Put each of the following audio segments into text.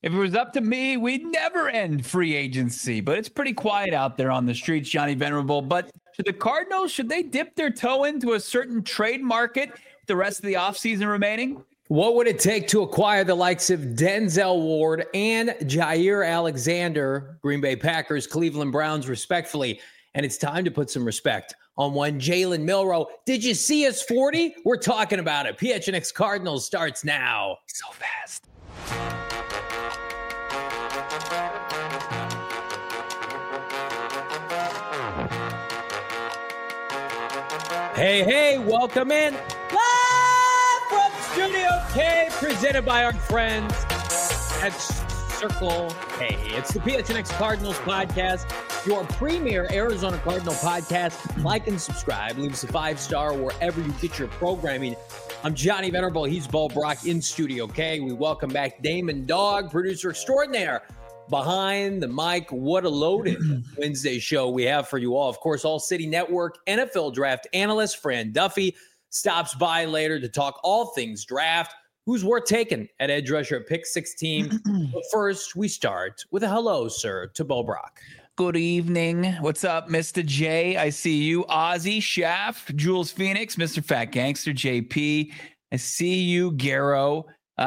If it was up to me, we'd never end free agency, but it's pretty quiet out there on the streets, Johnny Venerable. But should the Cardinals, should they dip their toe into a certain trade market the rest of the offseason remaining? What would it take to acquire the likes of Denzel Ward and Jair Alexander, Green Bay Packers, Cleveland Browns, respectfully? And it's time to put some respect on one Jalen Milroe. Did you see us 40? We're talking about it. PHNX Cardinals starts now. So fast. Hey, welcome in. Live from Studio K, presented by our friends at Circle K. It's the PHNX Cardinals podcast, your premier Arizona Cardinal podcast. Like and subscribe. Leave us a 5-star wherever you get your programming. I'm Johnny Venerable. He's Bo Brock in Studio K. We welcome back Damon Dog, producer extraordinaire, behind the mic. What a loaded Wednesday show we have for you all. Of course, All City Network NFL draft analyst Fran Duffy stops by later to talk all things draft. Who's worth taking at edge rusher at pick 16? But first, we start with a hello, sir, to Bo Brock. Good evening. What's up, Mr. J? I see you. Ozzy, Shaft, Jules Phoenix, Mr. Fat Gangster, JP. I see you, Garrow.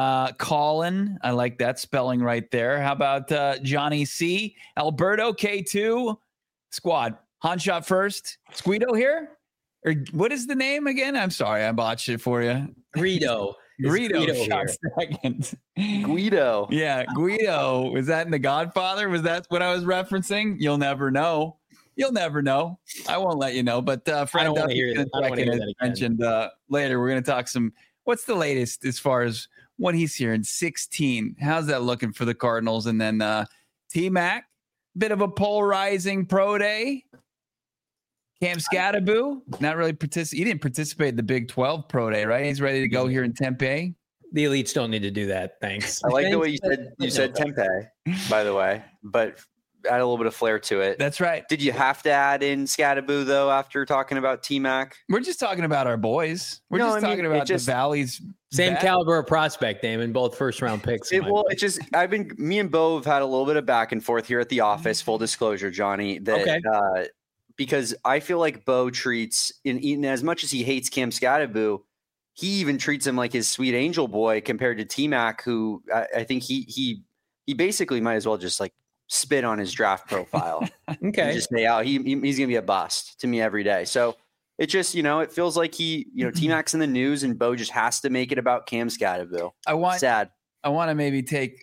Colin, I like that spelling right there. How about Johnny C? Alberto K2 squad. Hanshot first. Squeedo here? Or what is the name again? I'm sorry, I botched it for you. Greedo. Greedo shot second. Guido. Yeah, Guido. Was that in The Godfather? Was that what I was referencing? You'll never know. You'll never know. I won't let you know. But Fred Duffy mentioned later. We're going to talk some. What's the latest as far as what he's here in 16? How's that looking for the Cardinals? And then T-Mac, bit of a polarizing pro day. Cam Scatterboo, not really he didn't participate in the Big 12 pro day, right? He's ready to go here in Tempe. The elites don't need to do that. Thanks. I like the way you said Tempe, by the way, but add a little bit of flair to it. That's right. Did you have to add in Scatterboo, though, after talking about T-Mac? We're just talking about our boys. We're talking about the Valley's same caliber of prospect, Damon, both first-round picks. Me and Bo have had a little bit of back and forth here at the office, full disclosure, Johnny, because I feel like Bo treats, in as much as he hates Cam Scatterboo, he even treats him like his sweet angel boy compared to T-Mac, who I think he basically might as well just like spit on his draft profile. Okay. Just say, he's going to be a bust to me every day. So it just, it feels like T-Mac's in the news and Bo just has to make it about Cam Scatterboo. Sad. I want to maybe take,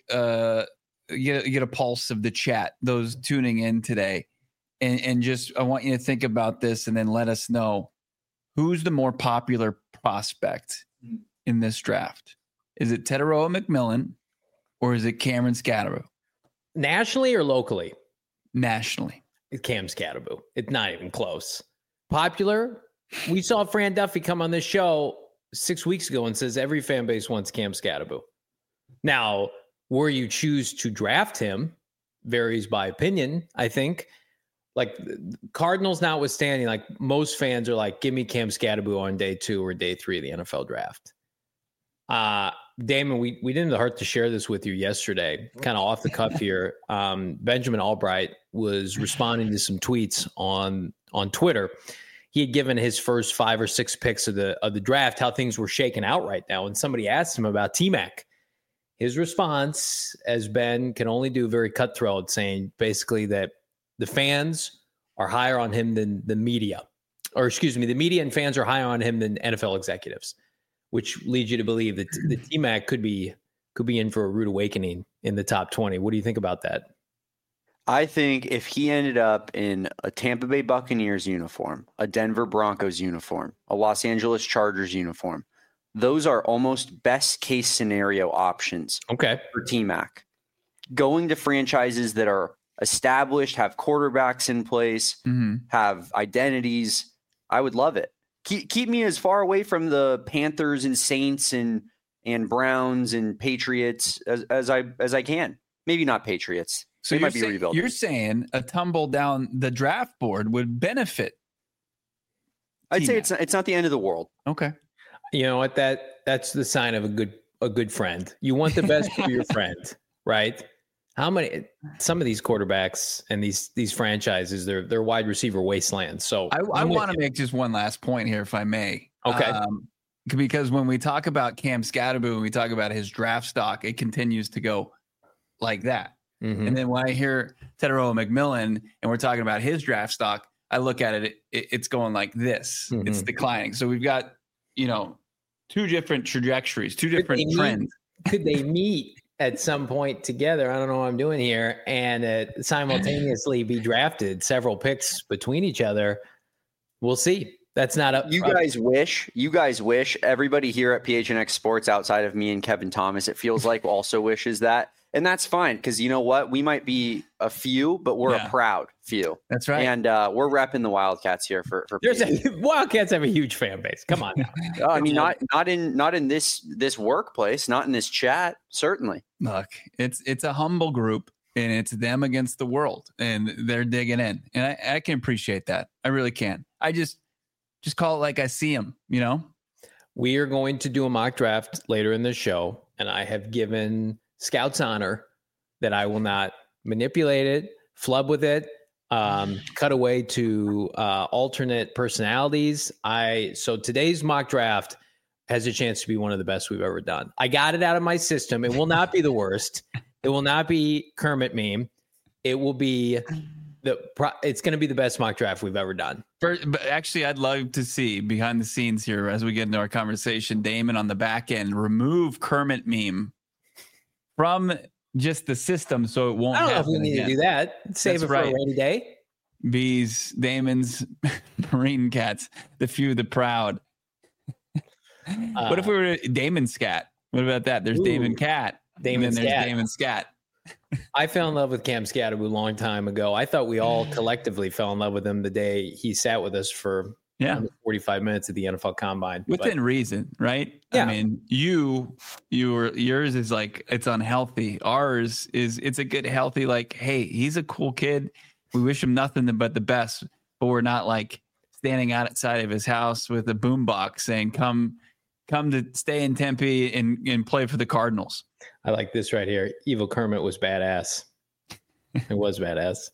get a pulse of the chat, those tuning in today. And just, I want you to think about this and then let us know who's the more popular prospect in this draft. Is it Teteroa McMillan or is it Cameron Scatterboo? Nationally or locally? Nationally. It's Cam Scatterboo. It's not even close. Popular? We saw Fran Duffy come on this show 6 weeks ago and says every fan base wants Cam Scatterboo. Now, where you choose to draft him varies by opinion, I think. Like Cardinals notwithstanding, like most fans are like, give me Cam Scatterboo on day 2 or day 3 of the NFL draft. Damon, we didn't hurt to share this with you yesterday, kind of off the cuff here. Benjamin Albright was responding to some tweets on Twitter. He had given his first 5 or 6 picks of the draft, how things were shaking out right now. And somebody asked him about T-Mac. His response, as Ben can only do, very cutthroat, saying basically that the fans are higher on him than the media. Or excuse me, the media and fans are higher on him than NFL executives, which leads you to believe that the T-Mac could be in for a rude awakening in the top 20. What do you think about that? I think if he ended up in a Tampa Bay Buccaneers uniform, a Denver Broncos uniform, a Los Angeles Chargers uniform, those are almost best case scenario options for T-Mac. Going to franchises that are established, have quarterbacks in place, have identities, I would love it. Keep me as far away from the Panthers and Saints and Browns and Patriots as I can. Maybe not Patriots. So you're saying a tumble down the draft board would benefit I'd say it's not the end of the world. Okay. You know what? That's the sign of a good friend. You want the best for your friend, right? Some of these quarterbacks and these franchises, they're wide receiver wastelands. So I want to make just one last point here, if I may. Okay. Because when we talk about Cam Skattebo and we talk about his draft stock, it continues to go like that. Mm-hmm. And then when I hear Tetairoa McMillan and we're talking about his draft stock, I look at it's going like this. Mm-hmm. It's declining. So we've got, two different trajectories, two different trends. Could they meet at some point together? I don't know what I'm doing here. And simultaneously be drafted, several picks between each other. We'll see. That's not up. You guys wish everybody here at PHNX Sports outside of me and Kevin Thomas, it feels like also wishes that. And that's fine. Because you know what? We might be a few, but we're a proud few. That's right. And we're repping the Wildcats here for Wildcats have a huge fan base. Come on now. I mean, not in this workplace, not in this chat, certainly. Look, it's a humble group and it's them against the world and they're digging in. And I can appreciate that. I really can. I just call it like I see them, We are going to do a mock draft later in the show, and I have given Scouts honor that I will not manipulate it, flub with it, cut away to alternate personalities. So today's mock draft has a chance to be one of the best we've ever done. I got it out of my system. It will not be the worst. It will not be Kermit meme. It will be it's going to be the best mock draft we've ever done. But actually, I'd love to see behind the scenes here as we get into our conversation, Damon on the back end remove Kermit meme from just the system so it won't happen. I don't know if we need to do that. Save it for a rainy day. Bees, Damon's, Marine Cats, the few, the proud. What if we were Damon Scat? What about that? There's Damon Cat. There's Damon Scat. I fell in love with Cam Skattebo a long time ago. I thought we all collectively fell in love with him the day he sat with us for 45 minutes at the NFL Combine. Within reason, right? Yeah. I mean, yours is like, it's unhealthy. Ours is, it's a good, healthy, like, hey, he's a cool kid. We wish him nothing but the best, but we're not like standing outside of his house with a boombox saying, come to stay in Tempe and play for the Cardinals. I like this right here. Evil Kermit was badass. It was badass.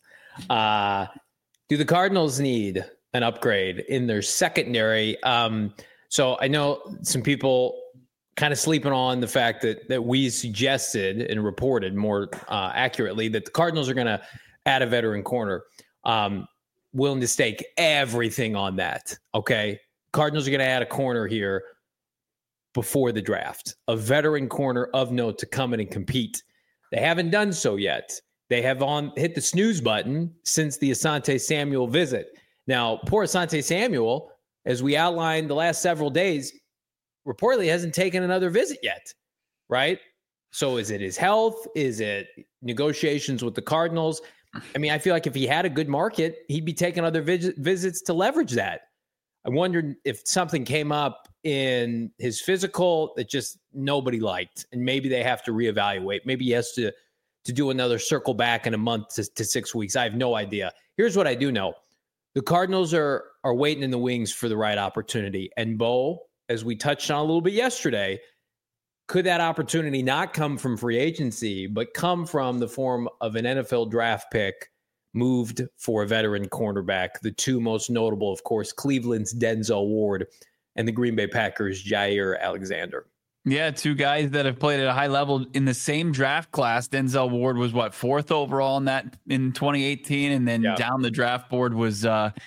Do the Cardinals need an upgrade in their secondary? So I know some people kind of sleeping on the fact that we suggested and reported more accurately that the Cardinals are going to add a veteran corner. Willing to stake everything on that. Okay. Cardinals are going to add a corner here before the draft, a veteran corner of note to come in and compete. They haven't done so yet. They have hit the snooze button since the Asante Samuel visit. Now, poor Asante Samuel, as we outlined the last several days, reportedly hasn't taken another visit yet, right? So is it his health? Is it negotiations with the Cardinals? I mean, I feel like if he had a good market, he'd be taking other visits to leverage that. I wondered if something came up in his physical that just nobody liked, and maybe they have to reevaluate. Maybe he has to do another circle back in a month to 6 weeks. I have no idea. Here's what I do know. The Cardinals are waiting in the wings for the right opportunity. And Bo, as we touched on a little bit yesterday, could that opportunity not come from free agency, but come from the form of an NFL draft pick moved for a veteran cornerback? The two most notable, of course, Cleveland's Denzel Ward and the Green Bay Packers' Jaire Alexander. Yeah, two guys that have played at a high level in the same draft class. Denzel Ward was fourth overall in 2018, and then down the draft board was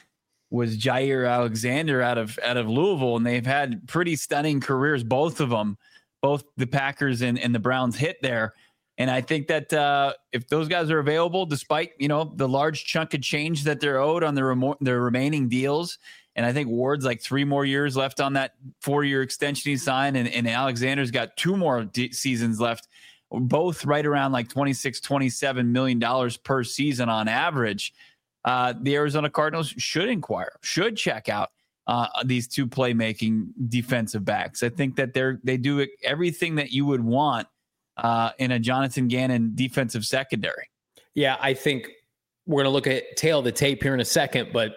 Jaire Alexander out of Louisville, and they've had pretty stunning careers, both of them. Both the Packers and the Browns hit there. And I think that if those guys are available, despite, the large chunk of change that they're owed on their remaining deals, and I think Ward's like 3 more years left on that 4-year extension he signed, and Alexander's got 2 more seasons left, both right around like $26-27 million per season on average. The Arizona Cardinals should check out these two playmaking defensive backs. I think that they do everything that you would want in a Jonathan Gannon defensive secondary. Yeah, I think we're going to look at tail of the tape here in a second, but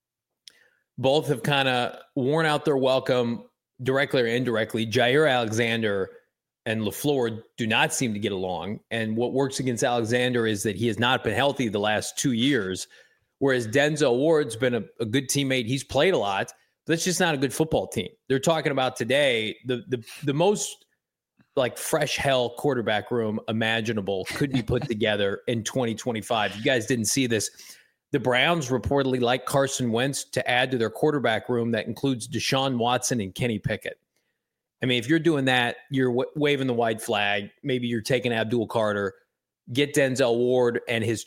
both have kind of worn out their welcome directly or indirectly. Jaire Alexander and LaFleur do not seem to get along. And what works against Alexander is that he has not been healthy the last 2 years, whereas Denzel Ward's been a good teammate. He's played a lot, but that's just not a good football team. They're talking about today the most like fresh hell quarterback room imaginable could be put together in 2025. You guys didn't see this. The Browns reportedly like Carson Wentz to add to their quarterback room that includes Deshaun Watson and Kenny Pickett. I mean, if you're doing that, you're waving the white flag. Maybe you're taking Abdul Carter, get Denzel Ward and his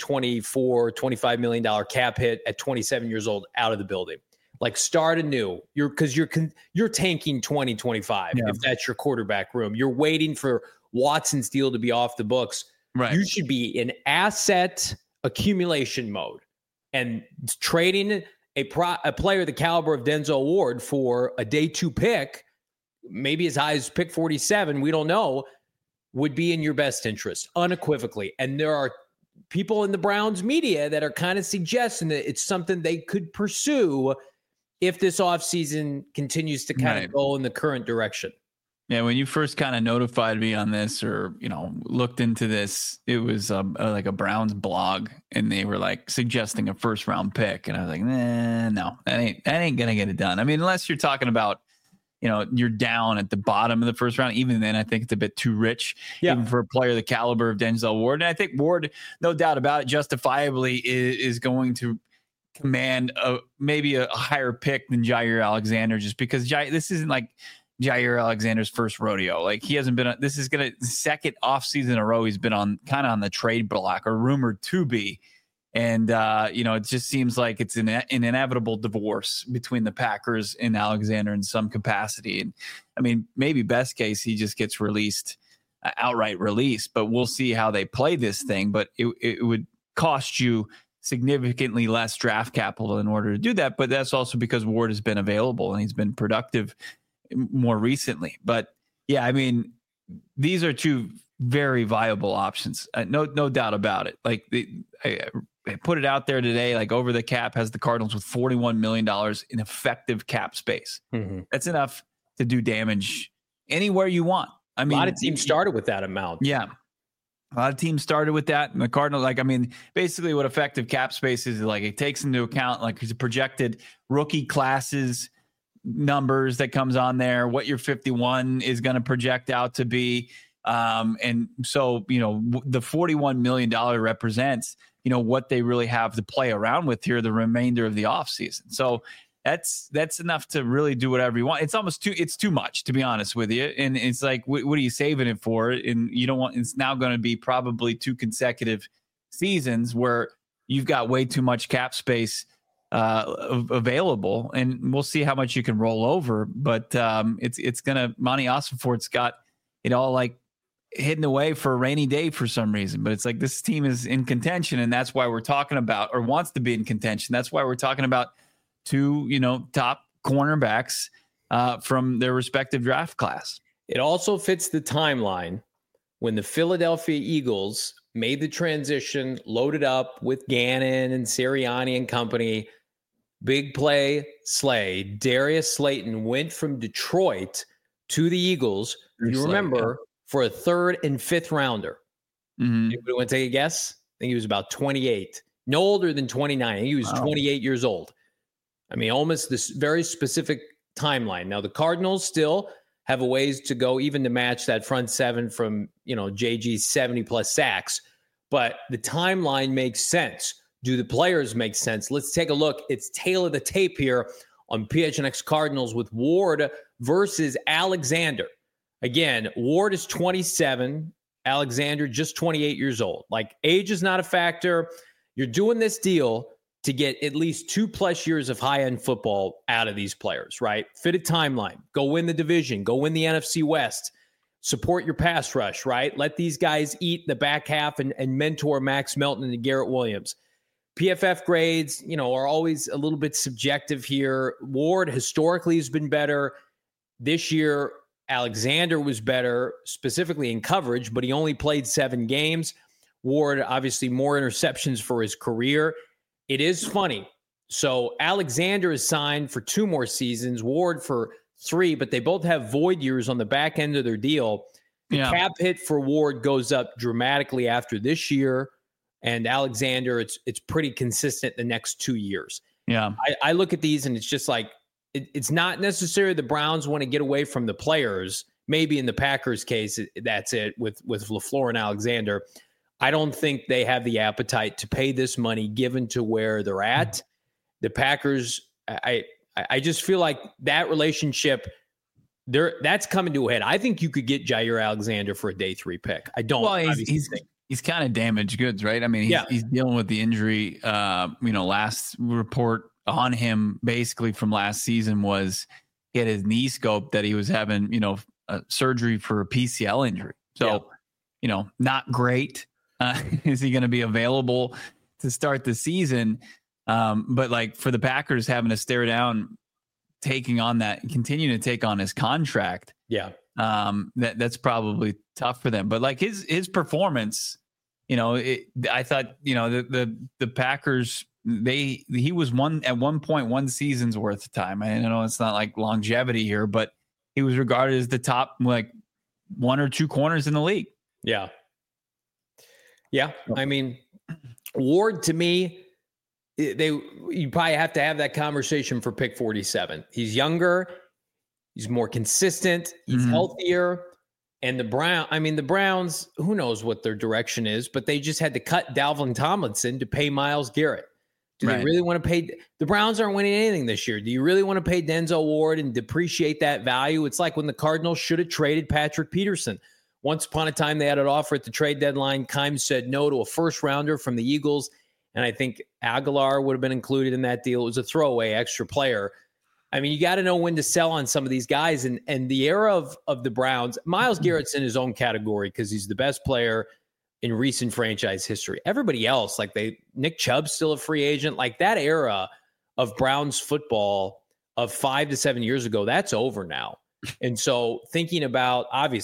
$25 million cap hit at 27 years old out of the building. Like start anew. You're tanking 2025 if that's your quarterback room. You're waiting for Watson's deal to be off the books. Right. You should be in asset accumulation mode and trading a player the caliber of Denzel Ward for a day 2 pick, maybe as high as pick 47, we don't know, would be in your best interest unequivocally. And there are people in the Browns media that are kind of suggesting that it's something they could pursue if this offseason continues to kind of go in the current direction. Yeah, when you first kind of notified me on this or, looked into this, it was like a Browns blog and they were like suggesting a first round pick. And I was like, no, that ain't going to get it done. I mean, unless you're talking about, you're down at the bottom of the first round. Even then, I think it's a bit too rich, even for a player the caliber of Denzel Ward. And I think Ward, no doubt about it, justifiably is going to command maybe a higher pick than Jair Alexander, just because this isn't like Jair Alexander's first rodeo. Like he hasn't been. This is the second offseason in a row he's been on the trade block or rumored to be. And, it just seems like it's an inevitable divorce between the Packers and Alexander in some capacity. And I mean, maybe best case, he just gets released, outright release, but we'll see how they play this thing. But it would cost you significantly less draft capital in order to do that. But that's also because Ward has been available and he's been productive more recently. But yeah, I mean, these are two very viable options. No doubt about it. Like I put it out there today, like Over the Cap has the Cardinals with $41 million in effective cap space. Mm-hmm. That's enough to do damage anywhere you want. I mean, a lot of teams started with that amount. Yeah. A lot of teams started with that. And the Cardinals, basically what effective cap space is like it takes into account like the projected rookie classes numbers that comes on there, what your 51 is going to project out to be. And so, the $41 million represents, what they really have to play around with here the remainder of the offseason. So that's enough to really do whatever you want. It's too much, to be honest with you. And it's like, what are you saving it for? And you don't want, it's now going to be probably 2 consecutive seasons where you've got way too much cap space available, and we'll see how much you can roll over. But it's going to, Monty Ossenfort's got it all like hidden away for a rainy day for some reason. But it's like this team is in contention, and that's why we're talking about, or wants to be in contention. That's why we're talking about 2, top cornerbacks from their respective draft class. It also fits the timeline when the Philadelphia Eagles made the transition, loaded up with Gannon and Sirianni and company. Big play Slay. Darius Slayton went from Detroit to the Eagles. You remember, for a 3rd and 5th rounder. Mm-hmm. Anybody want to take a guess? I think he was about 28. No older than 29. He was 28 years old. I mean, almost this very specific timeline. Now, the Cardinals still have a ways to go even to match that front 7 from, JG's 70-plus sacks. But the timeline makes sense. Do the players make sense? Let's take a look. It's tail of the tape here on PHNX Cardinals with Ward versus Alexander. Again, Ward is 27, Alexander just 28 years old. Like, age is not a factor. You're doing this deal to get at least 2+ years of high-end football out of these players, right? Fit a timeline. Go win the division. Go win the NFC West. Support your pass rush, right? Let these guys eat the back half and mentor Max Melton and Garrett Williams. PFF grades, are always a little bit subjective here. Ward historically has been better. This year, Alexander was better, specifically in coverage, but he only played 7 games. Ward, obviously, more interceptions for his career. It is funny. So Alexander is signed for 2 more seasons, Ward for 3, but they both have void years on the back end of their deal. The cap hit for Ward goes up dramatically after this year, and Alexander, it's pretty consistent the next 2 years. Yeah. I look at these and it's just like, it's not necessarily the Browns want to get away from the players. Maybe in the Packers case, that's it with LaFleur and Alexander. I don't think they have the appetite to pay this money given to where they're at. The Packers, I just feel like that relationship, that's coming to a head. I think you could get Jair Alexander for a day 3 pick. I don't. Well, he's kind of damaged goods, right? I mean, he's dealing with the injury. Last report on him basically from last season was he had his knee scoped that he was having, surgery for a PCL injury. So, not great. Is he going to be available to start the season? But like for the Packers having to stare down, continuing to take on his contract. Yeah. That's probably tough for them, but like his performance, I thought, the Packers, he was at one point 1 season's worth of time. I know it's not like longevity here, but he was regarded as the top, like 1 or 2 corners in the league. Yeah. Yeah. I mean, Ward to me, you probably have to have that conversation for pick 47. He's younger. He's more consistent. He's healthier. And the Browns, who knows what their direction is, but they just had to cut Dalvin Tomlinson to pay Myles Garrett. Do they really want to pay? The Browns aren't winning anything this year. Do you really want to pay Denzel Ward and depreciate that value? It's like when the Cardinals should have traded Patrick Peterson. Once upon a time, they had an offer at the trade deadline. Kimes said no to a first rounder from the Eagles. And I think Aguilar would have been included in that deal. It was a throwaway extra player. I mean, you got to know when to sell on some of these guys. And the era of the Browns, Myles Garrett's in his own category because he's the best player in recent franchise history. Everybody else, Nick Chubb's still a free agent. Like that era of Browns football of 5 to 7 years ago, that's over now. And so thinking about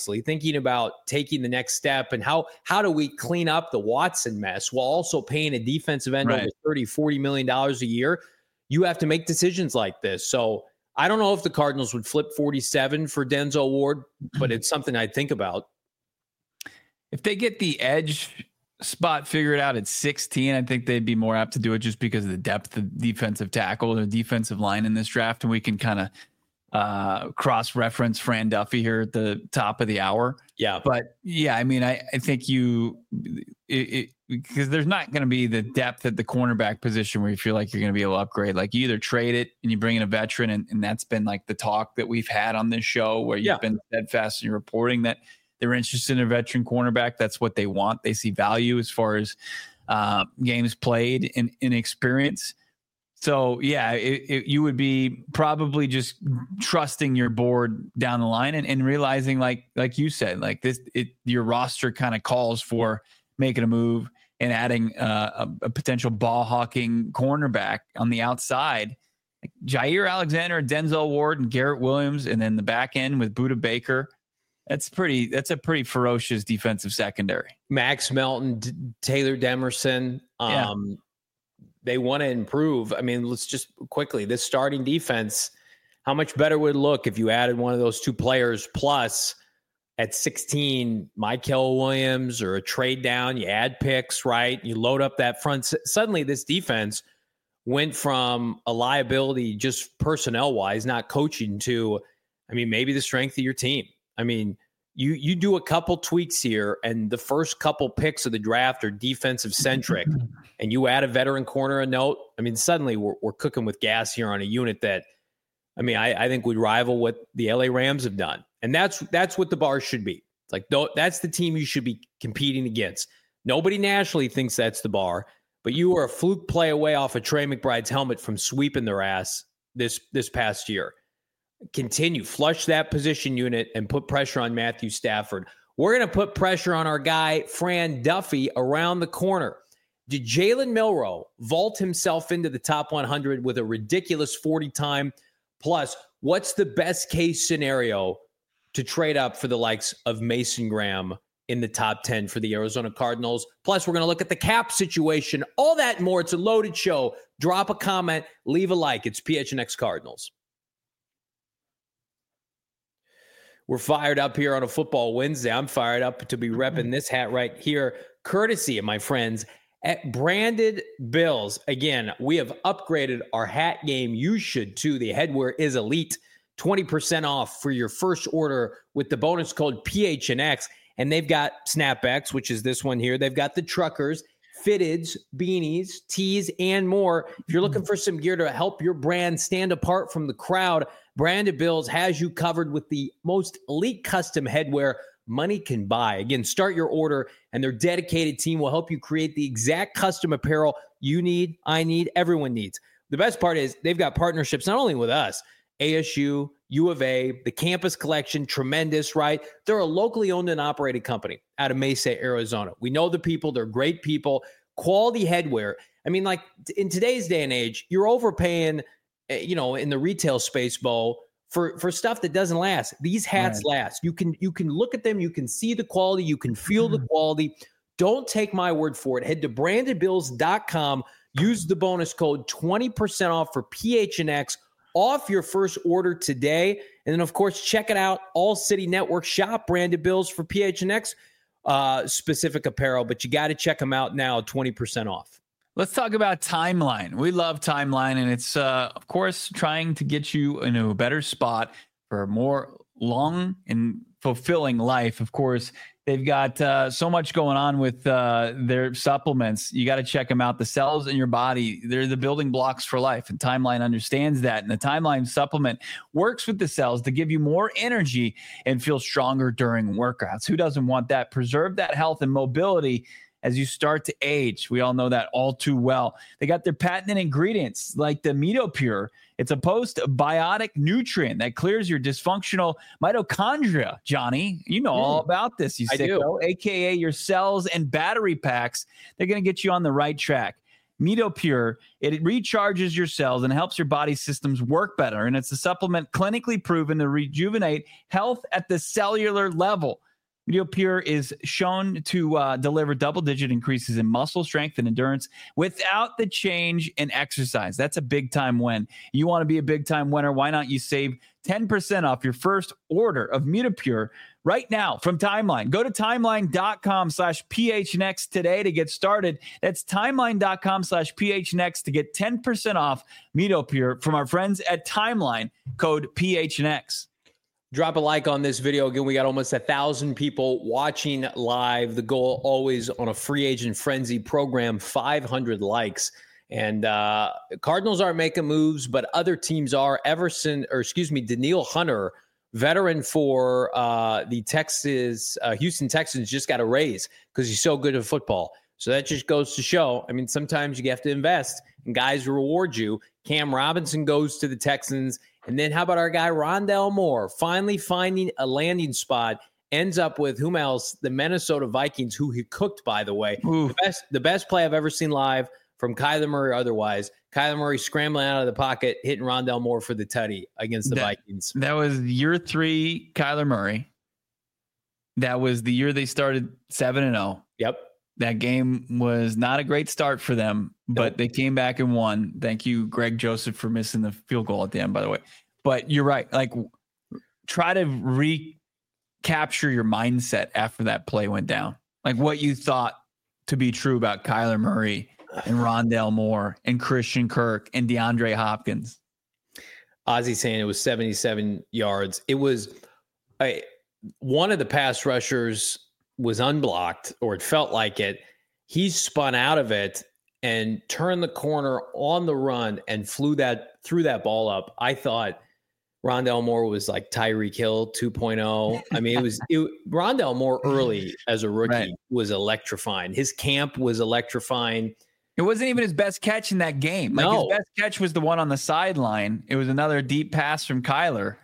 taking the next step and how do we clean up the Watson mess while also paying a defensive end over $30-40 million a year, you have to make decisions like this. So I don't know if the Cardinals would flip 47 for Denzel Ward, but it's something I'd think about. If they get the edge spot figured out at 16, I think they'd be more apt to do it just because of the depth of defensive tackle or defensive line in this draft. And we can kind of cross-reference Fran Duffy here at the top of the hour. Yeah. But yeah, I mean, I think because there's not going to be the depth at the cornerback position where you feel like you're going to be able to upgrade. Like you either trade it and you bring in a veteran, and that's been like the talk that we've had on this show where you've been steadfast in your reporting that they're interested in a veteran cornerback. That's what they want. They see value as far as games played and experience. So yeah, you would be probably just trusting your board down the line and realizing like you said, like your roster kind of calls for making a move and adding a potential ball hawking cornerback on the outside. Like Jair Alexander, Denzel Ward, and Garrett Williams, and then the back end with Budda Baker. That's a pretty ferocious defensive secondary. Max Melton, Taylor Demerson. They want to improve. I mean, let's just quickly, this starting defense, how much better would it look if you added one of those 2 players plus at 16, Mykel Williams, or a trade down, you add picks, right? You load up that front. Suddenly this defense went from a liability just personnel-wise, not coaching, to, I mean, maybe the strength of your team. I mean, you do a couple tweaks here, and the first couple picks of the draft are defensive centric, and you add a veteran corner a note. I mean, suddenly we're cooking with gas here on a unit that, I mean, I think would rival what the LA Rams have done, and that's what the bar should be. It's like that's the team you should be competing against. Nobody nationally thinks that's the bar, but you were a fluke play away off of Trey McBride's helmet from sweeping their ass this past year. Continue, flush that position unit and put pressure on Matthew Stafford. We're going to put pressure on our guy, Fran Duffy, around the corner. Did Jalen Milroe vault himself into the top 100 with a ridiculous 40 time? Plus, what's the best case scenario to trade up for the likes of Mason Graham in the top 10 for the Arizona Cardinals? Plus, we're going to look at the cap situation, all that and more. It's a loaded show. Drop a comment, leave a like. It's PHNX Cardinals. We're fired up here on a football Wednesday. I'm fired up to be repping this hat right here, courtesy of my friends at Branded Bills. Again, we have upgraded our hat game. You should too. The headwear is elite. 20% off for your first order with the bonus code PHNX. And they've got snapbacks, which is this one here. They've got the truckers, fitteds, beanies, tees, and more. If you're looking for some gear to help your brand stand apart from the crowd, Branded Bills has you covered with the most elite custom headwear money can buy. Again, start your order, and their dedicated team will help you create the exact custom apparel you need, I need, everyone needs. The best part is they've got partnerships not only with us, ASU, U of A, the Campus Collection, tremendous, right? They're a locally owned and operated company out of Mesa, Arizona. We know the people. They're great people. Quality headwear. I mean, like in today's day and age, you're overpaying, in the retail space, Bo, for stuff that doesn't last. These hats last. You can look at them. You can see the quality. You can feel the quality. Don't take my word for it. Head to brandedbills.com. Use the bonus code 20% off for PHNX off your first order today. And then, of course, check it out. All City Network shop Branded Bills for PHNX specific apparel, but you got to check them out now, 20% off. Let's talk about Timeline. We love Timeline, and it's, of course, trying to get you into a better spot for a more long and fulfilling life. Of course, they've got so much going on with their supplements. You got to check them out. The cells in your body, they're the building blocks for life, and Timeline understands that. And the Timeline supplement works with the cells to give you more energy and feel stronger during workouts. Who doesn't want that? Preserve that health and mobility as you start to age. We all know that all too well. They got their patented ingredients like the MitoPure. It's a postbiotic nutrient that clears your dysfunctional mitochondria. Johnny, you know all about this, you sicko, aka your cells and battery packs. They're going to get you on the right track. MitoPure, it recharges your cells and helps your body systems work better. And it's a supplement clinically proven to rejuvenate health at the cellular level. MitoPure is shown to deliver double-digit increases in muscle strength and endurance without the change in exercise. That's a big-time win. You want to be a big-time winner? Why not you save 10% off your first order of MitoPure right now from Timeline? Go to timeline.com/PHNX today to get started. That's timeline.com/PHNX to get 10% off MitoPure from our friends at Timeline, code PHNX. Drop a like on this video. Again, we got almost 1,000 people watching live. The goal always on a free agent frenzy program, 500 likes. And Cardinals aren't making moves, but other teams are. Danielle Hunter, veteran for the Houston Texans, just got a raise because he's so good at football. So that just goes to show, I mean, sometimes you have to invest and guys reward you. Cam Robinson goes to the Texans. And then how about our guy Rondale Moore finally finding a landing spot, ends up with whom else? The Minnesota Vikings, who he cooked, by the way. The best play I've ever seen live from Kyler Murray or otherwise. Kyler Murray scrambling out of the pocket, hitting Rondale Moore for the tutty against the Vikings. That was year 3 Kyler Murray. That was the year they started 7-0. Yep. That game was not a great start for them, but they came back and won. Thank you, Greg Joseph, for missing the field goal at the end, by the way. But you're right. Like, try to recapture your mindset after that play went down. Like what you thought to be true about Kyler Murray and Rondale Moore and Christian Kirk and DeAndre Hopkins. Ozzy saying it was 77 yards. It was one of the pass rushers was unblocked, or it felt like it. He spun out of it and turned the corner on the run and threw that ball up. I thought Rondale Moore was like Tyreek Hill 2.0. I mean, Rondale Moore early as a rookie was electrifying. His camp was electrifying. It wasn't even his best catch in that game. Like his best catch was the one on the sideline. It was another deep pass from Kyler.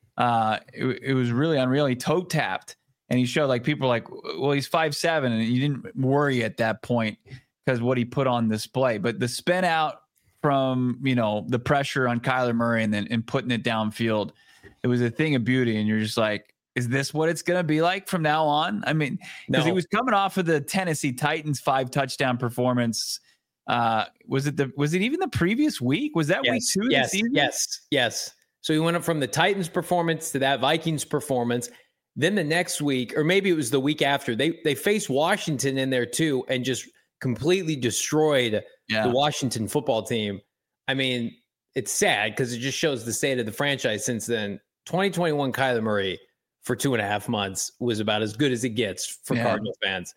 It was really unreal. He toe tapped. And he showed, like, people are like, well, he's 5'7", and you didn't worry at that point because what he put on display. But the spin out from, the pressure on Kyler Murray and putting it downfield, it was a thing of beauty. And you're just like, is this what it's going to be like from now on? I mean, because he was coming off of the Tennessee Titans 5-touchdown performance. Was it even the previous week? Was that week 2 of the season? Yes. So he went up from the Titans performance to that Vikings performance. Then the next week, or maybe it was the week after, they faced Washington in there too and just completely destroyed the Washington football team. I mean, it's sad because it just shows the state of the franchise since then. 2021 Kyler Murray for 2.5 months was about as good as it gets for Cardinals fans.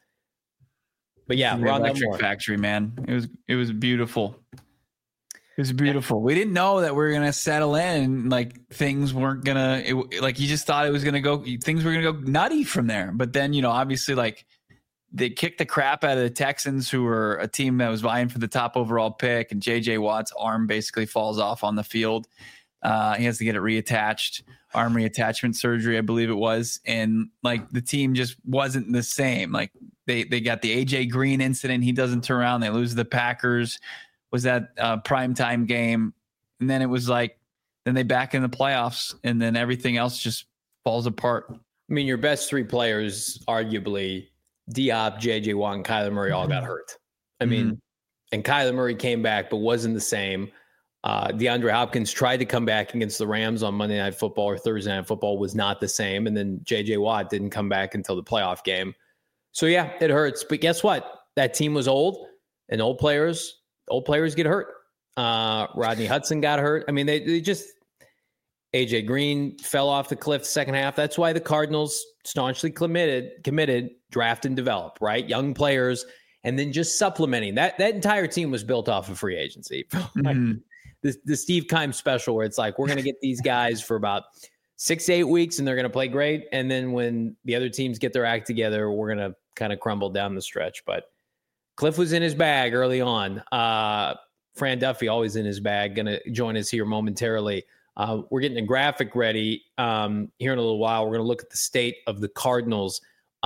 But yeah, the Electric Factory, man. It was beautiful. It was beautiful. We didn't know that we were gonna settle in. Like things weren't gonna. Like you just thought it was gonna go. Things were gonna go nutty from there. But then obviously, like they kicked the crap out of the Texans, who were a team that was vying for the top overall pick, and J.J. Watt's arm basically falls off on the field. He has to get it reattached, arm reattachment surgery, I believe it was, and like the team just wasn't the same. Like they got the A.J. Green incident. He doesn't turn around. They lose the Packers. Was that primetime game, and then it was like, then they back in the playoffs, and then everything else just falls apart. I mean, your best three players, arguably, Diop, J.J. Watt, and Kyler Murray all got hurt. I mean, and Kyler Murray came back, but wasn't the same. DeAndre Hopkins tried to come back against the Rams on Monday Night Football or Thursday Night Football, was not the same. And then J.J. Watt didn't come back until the playoff game. So, yeah, it hurts. But guess what? That team was old, and old players get hurt. Rodney Hudson got hurt. I mean, they just – A.J. Green fell off the cliff the second half. That's why the Cardinals staunchly committed, draft and develop, right? Young players, and then just supplementing. That entire team was built off of free agency. The Steve Keim special where it's like, we're going to get these guys for about 6 to 8 weeks, and they're going to play great. And then when the other teams get their act together, we're going to kind of crumble down the stretch. But Cliff was in his bag early on. Fran Duffy always in his bag, going to join us here momentarily. We're getting a graphic ready here in a little while. We're going to look at the state of the Cardinals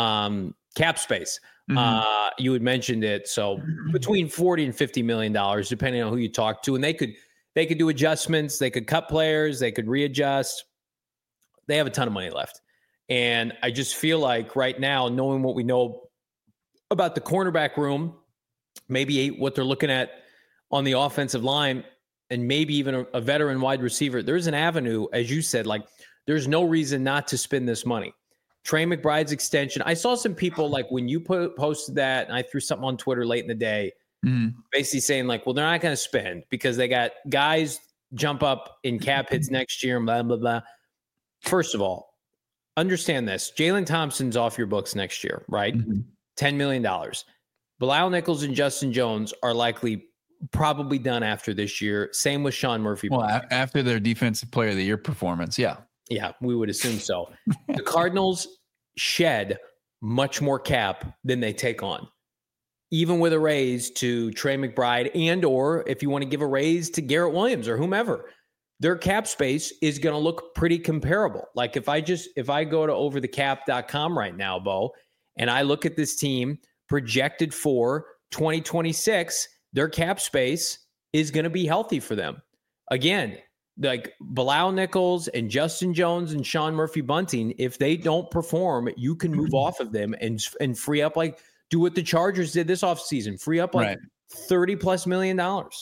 cap space. You had mentioned it. So between $40 and $50 million, depending on who you talk to, and they could do adjustments. They could cut players. They could readjust. They have a ton of money left. And I just feel like right now, knowing what we know about the cornerback room, maybe what they're looking at on the offensive line, and maybe even a veteran wide receiver, there's an avenue, as you said, like there's no reason not to spend this money. Trey McBride's extension. I saw some people like when you posted that, and I threw something on Twitter late in the day, basically saying like, well, they're not going to spend because they got guys jump up in cap hits next year and blah, blah, blah. First of all, understand this. Jalen Thompson's off your books next year, right? $10 million. Bilal Nichols and Justin Jones are probably done after this year. Same with Sean Murphy. Well, after their defensive player of the year performance. Yeah. Yeah, we would assume so. The Cardinals shed much more cap than they take on, even with a raise to Trey McBride and or if you want to give a raise to Garrett Williams or whomever, their cap space is going to look pretty comparable. Like if I go to overthecap.com right now, Bo, and I look at this team projected for 2026, their cap space is going to be healthy for them. Again, like Bilal Nichols and Justin Jones and Sean Murphy Bunting, if they don't perform, you can move off of them and free up, like do what the Chargers did this offseason, free up like $30+ million.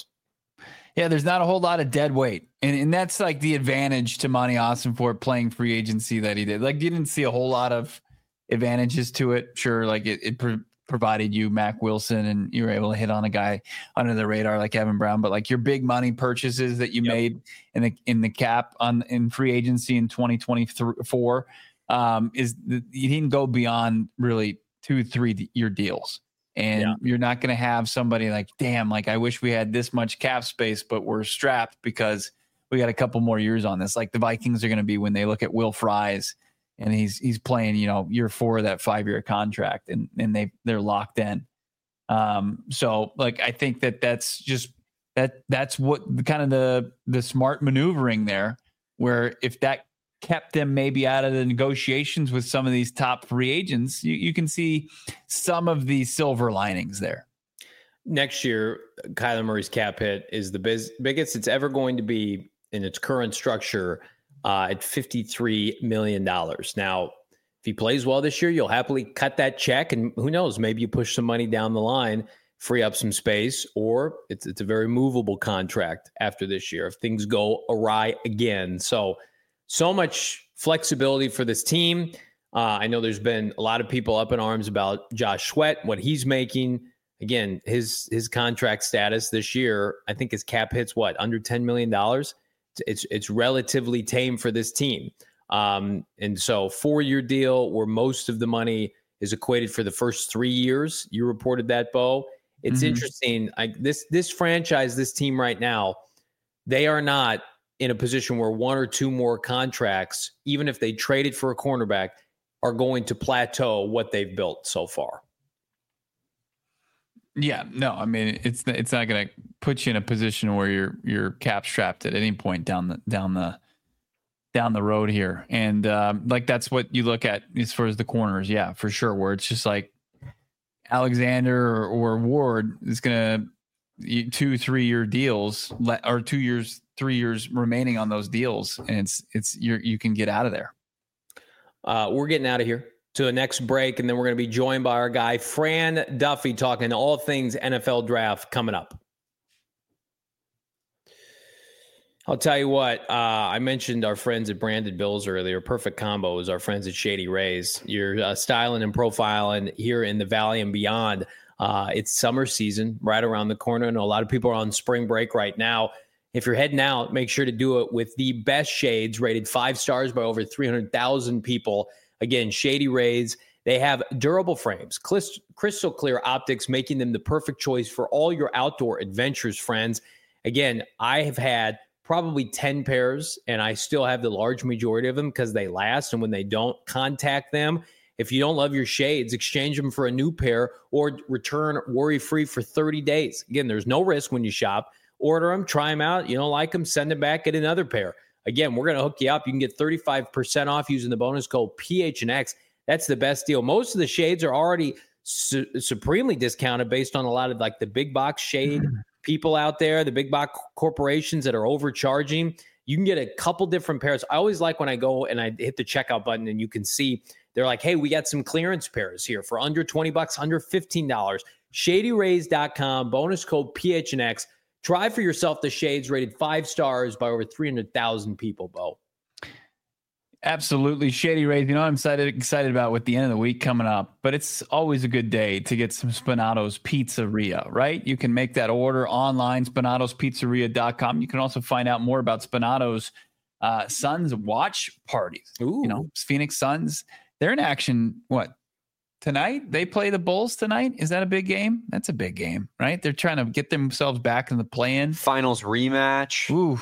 Yeah, there's not a whole lot of dead weight. And that's like the advantage to Monty Ossenfort playing free agency that he did. Like you didn't see a whole lot of advantages to it. Sure, like it provided you Mac Wilson and you were able to hit on a guy under the radar like Evan Brown, but like your big money purchases that you made in the cap in free agency in 2024 you didn't go beyond really 2-3 year deals. And you're not going to have somebody like, damn, like I wish we had this much cap space, but we're strapped because we got a couple more years on this. Like the Vikings are going to be when they look at Will Fries and he's playing, year 4 of that 5-year contract and they're locked in. So like, I think that's just, that's what kind of the smart maneuvering there, where if that kept them maybe out of the negotiations with some of these top free agents, you can see some of the silver linings there. Next year, Kyler Murray's cap hit is the biggest it's ever going to be in its current structure at $53 million. Now, if he plays well this year, you'll happily cut that check. And who knows, maybe you push some money down the line. free up some space, or it's a very movable contract after this year if things go awry again. So much flexibility for this team. I know there's been a lot of people up in arms about Josh Sweat, what he's making. Again, his contract status this year, I think his cap hits under $10 million. It's relatively tame for this team. And so 4-year deal where most of the money is equated for the first 3 years. You reported that, Bo. It's interesting. This franchise, this team right now, they are not in a position where 1 or 2 more contracts, even if they traded for a cornerback, are going to plateau what they've built so far. Yeah, no, I mean it's not going to put you in a position where you're cap strapped at any point down the road here, and that's what you look at as far as the corners. Yeah, for sure. Where it's just like Alexander or Ward is going to 2-3 year deals, or 2 years, 3 years remaining on those deals, and you can get out of there. We're getting out of here to the next break, and then we're going to be joined by our guy Fran Duffy talking all things NFL draft coming up. I'll tell you what, I mentioned our friends at Branded Bills earlier. Perfect combo is our friends at Shady Rays. You're styling and profiling here in the Valley and beyond. It's summer season right around the corner. I know a lot of people are on spring break right now. If you're heading out, make sure to do it with the best shades, rated 5 stars by over 300,000 people. Again, Shady Rays. They have durable frames, crystal clear optics, making them the perfect choice for all your outdoor adventures, friends. Again, I have had probably 10 pairs, and I still have the large majority of them because they last. And when they don't, contact them. If you don't love your shades, exchange them for a new pair or return worry-free for 30 days. Again, there's no risk when you shop. Order them, try them out. You don't like them, send them back, get another pair. Again, we're going to hook you up. You can get 35% off using the bonus code PHNX. That's the best deal. Most of the shades are already supremely discounted based on a lot of the big box shade people out there, the big box corporations that are overcharging. You can get a couple different pairs. I always like when I go and I hit the checkout button and you can see they're like, hey, we got some clearance pairs here for under $20, under $15. ShadyRays.com, bonus code PHNX. Try for yourself the shades rated 5 stars by over 300,000 people, Bo. Absolutely. Shady Rays. You know, I'm excited about with the end of the week coming up, but it's always a good day to get some Spinato's Pizzeria, right? You can make that order online, Spinato'sPizzeria.com. You can also find out more about Spinato's Suns watch parties. Ooh. You know, Phoenix Suns, they're in action, tonight? They play the Bulls tonight? Is that a big game? That's a big game, right? They're trying to get themselves back in the play-in. Finals rematch. Ooh.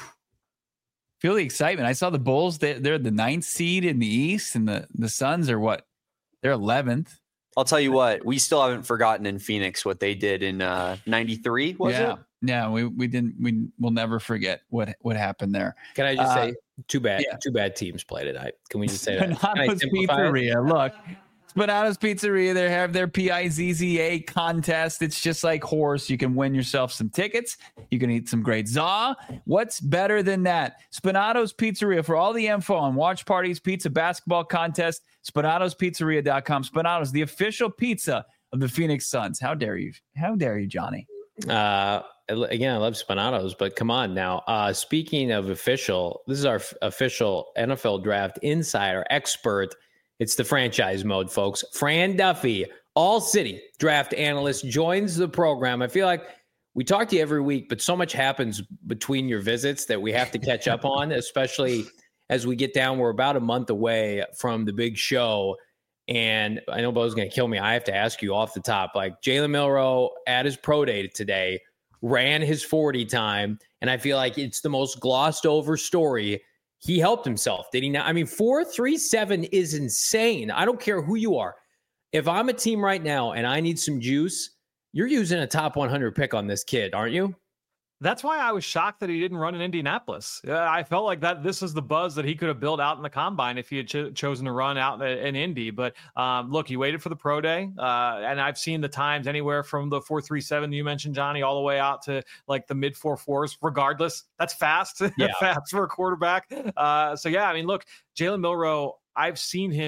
Feel the excitement. I saw the Bulls. They're the 9th seed in the East, and the Suns are what? They're 11th. I'll tell you what. We still haven't forgotten in Phoenix what they did in '93. Was it? Yeah, we didn't. We'll never forget what happened there. Can I just say, too bad? Yeah. Two bad teams play tonight. Can we just say that? Spinato's Pizzeria. Look. Spinato's Pizzeria, they have their PIZZA contest. It's just like horse. You can win yourself some tickets. You can eat some great za. What's better than that? Spinato's Pizzeria. For all the info on watch parties, pizza, basketball contest, Spinato'sPizzeria.com. Spinato's, the official pizza of the Phoenix Suns. How dare you? How dare you, Johnny? Again, I love Spinato's, but come on now. Speaking of official, this is our official NFL draft insider expert. It's the franchise mode, folks. Fran Duffy, All City draft analyst, joins the program. I feel like we talk to you every week, but so much happens between your visits that we have to catch up on, especially as we get down. We're about a month away from the big show. And I know Bo's going to kill me. I have to ask you off the top, Jalen Milroe at his pro day today ran his 40 time. And I feel like it's the most glossed over story. He helped himself, did he not? I mean, 4.37 is insane. I don't care who you are. If I'm a team right now and I need some juice, you're using a top 100 pick on this kid, aren't you? That's why I was shocked that he didn't run in Indianapolis. I felt like that this is the buzz that he could have built out in the combine if he had chosen to run out in Indy. But look, he waited for the pro day, and I've seen the times anywhere from the 4.37 you mentioned, Johnny, all the way out to the mid 4.4s. Regardless, that's fast. Yeah. Fast for a quarterback. So yeah, I mean, look, Jalen Milroe, I've seen him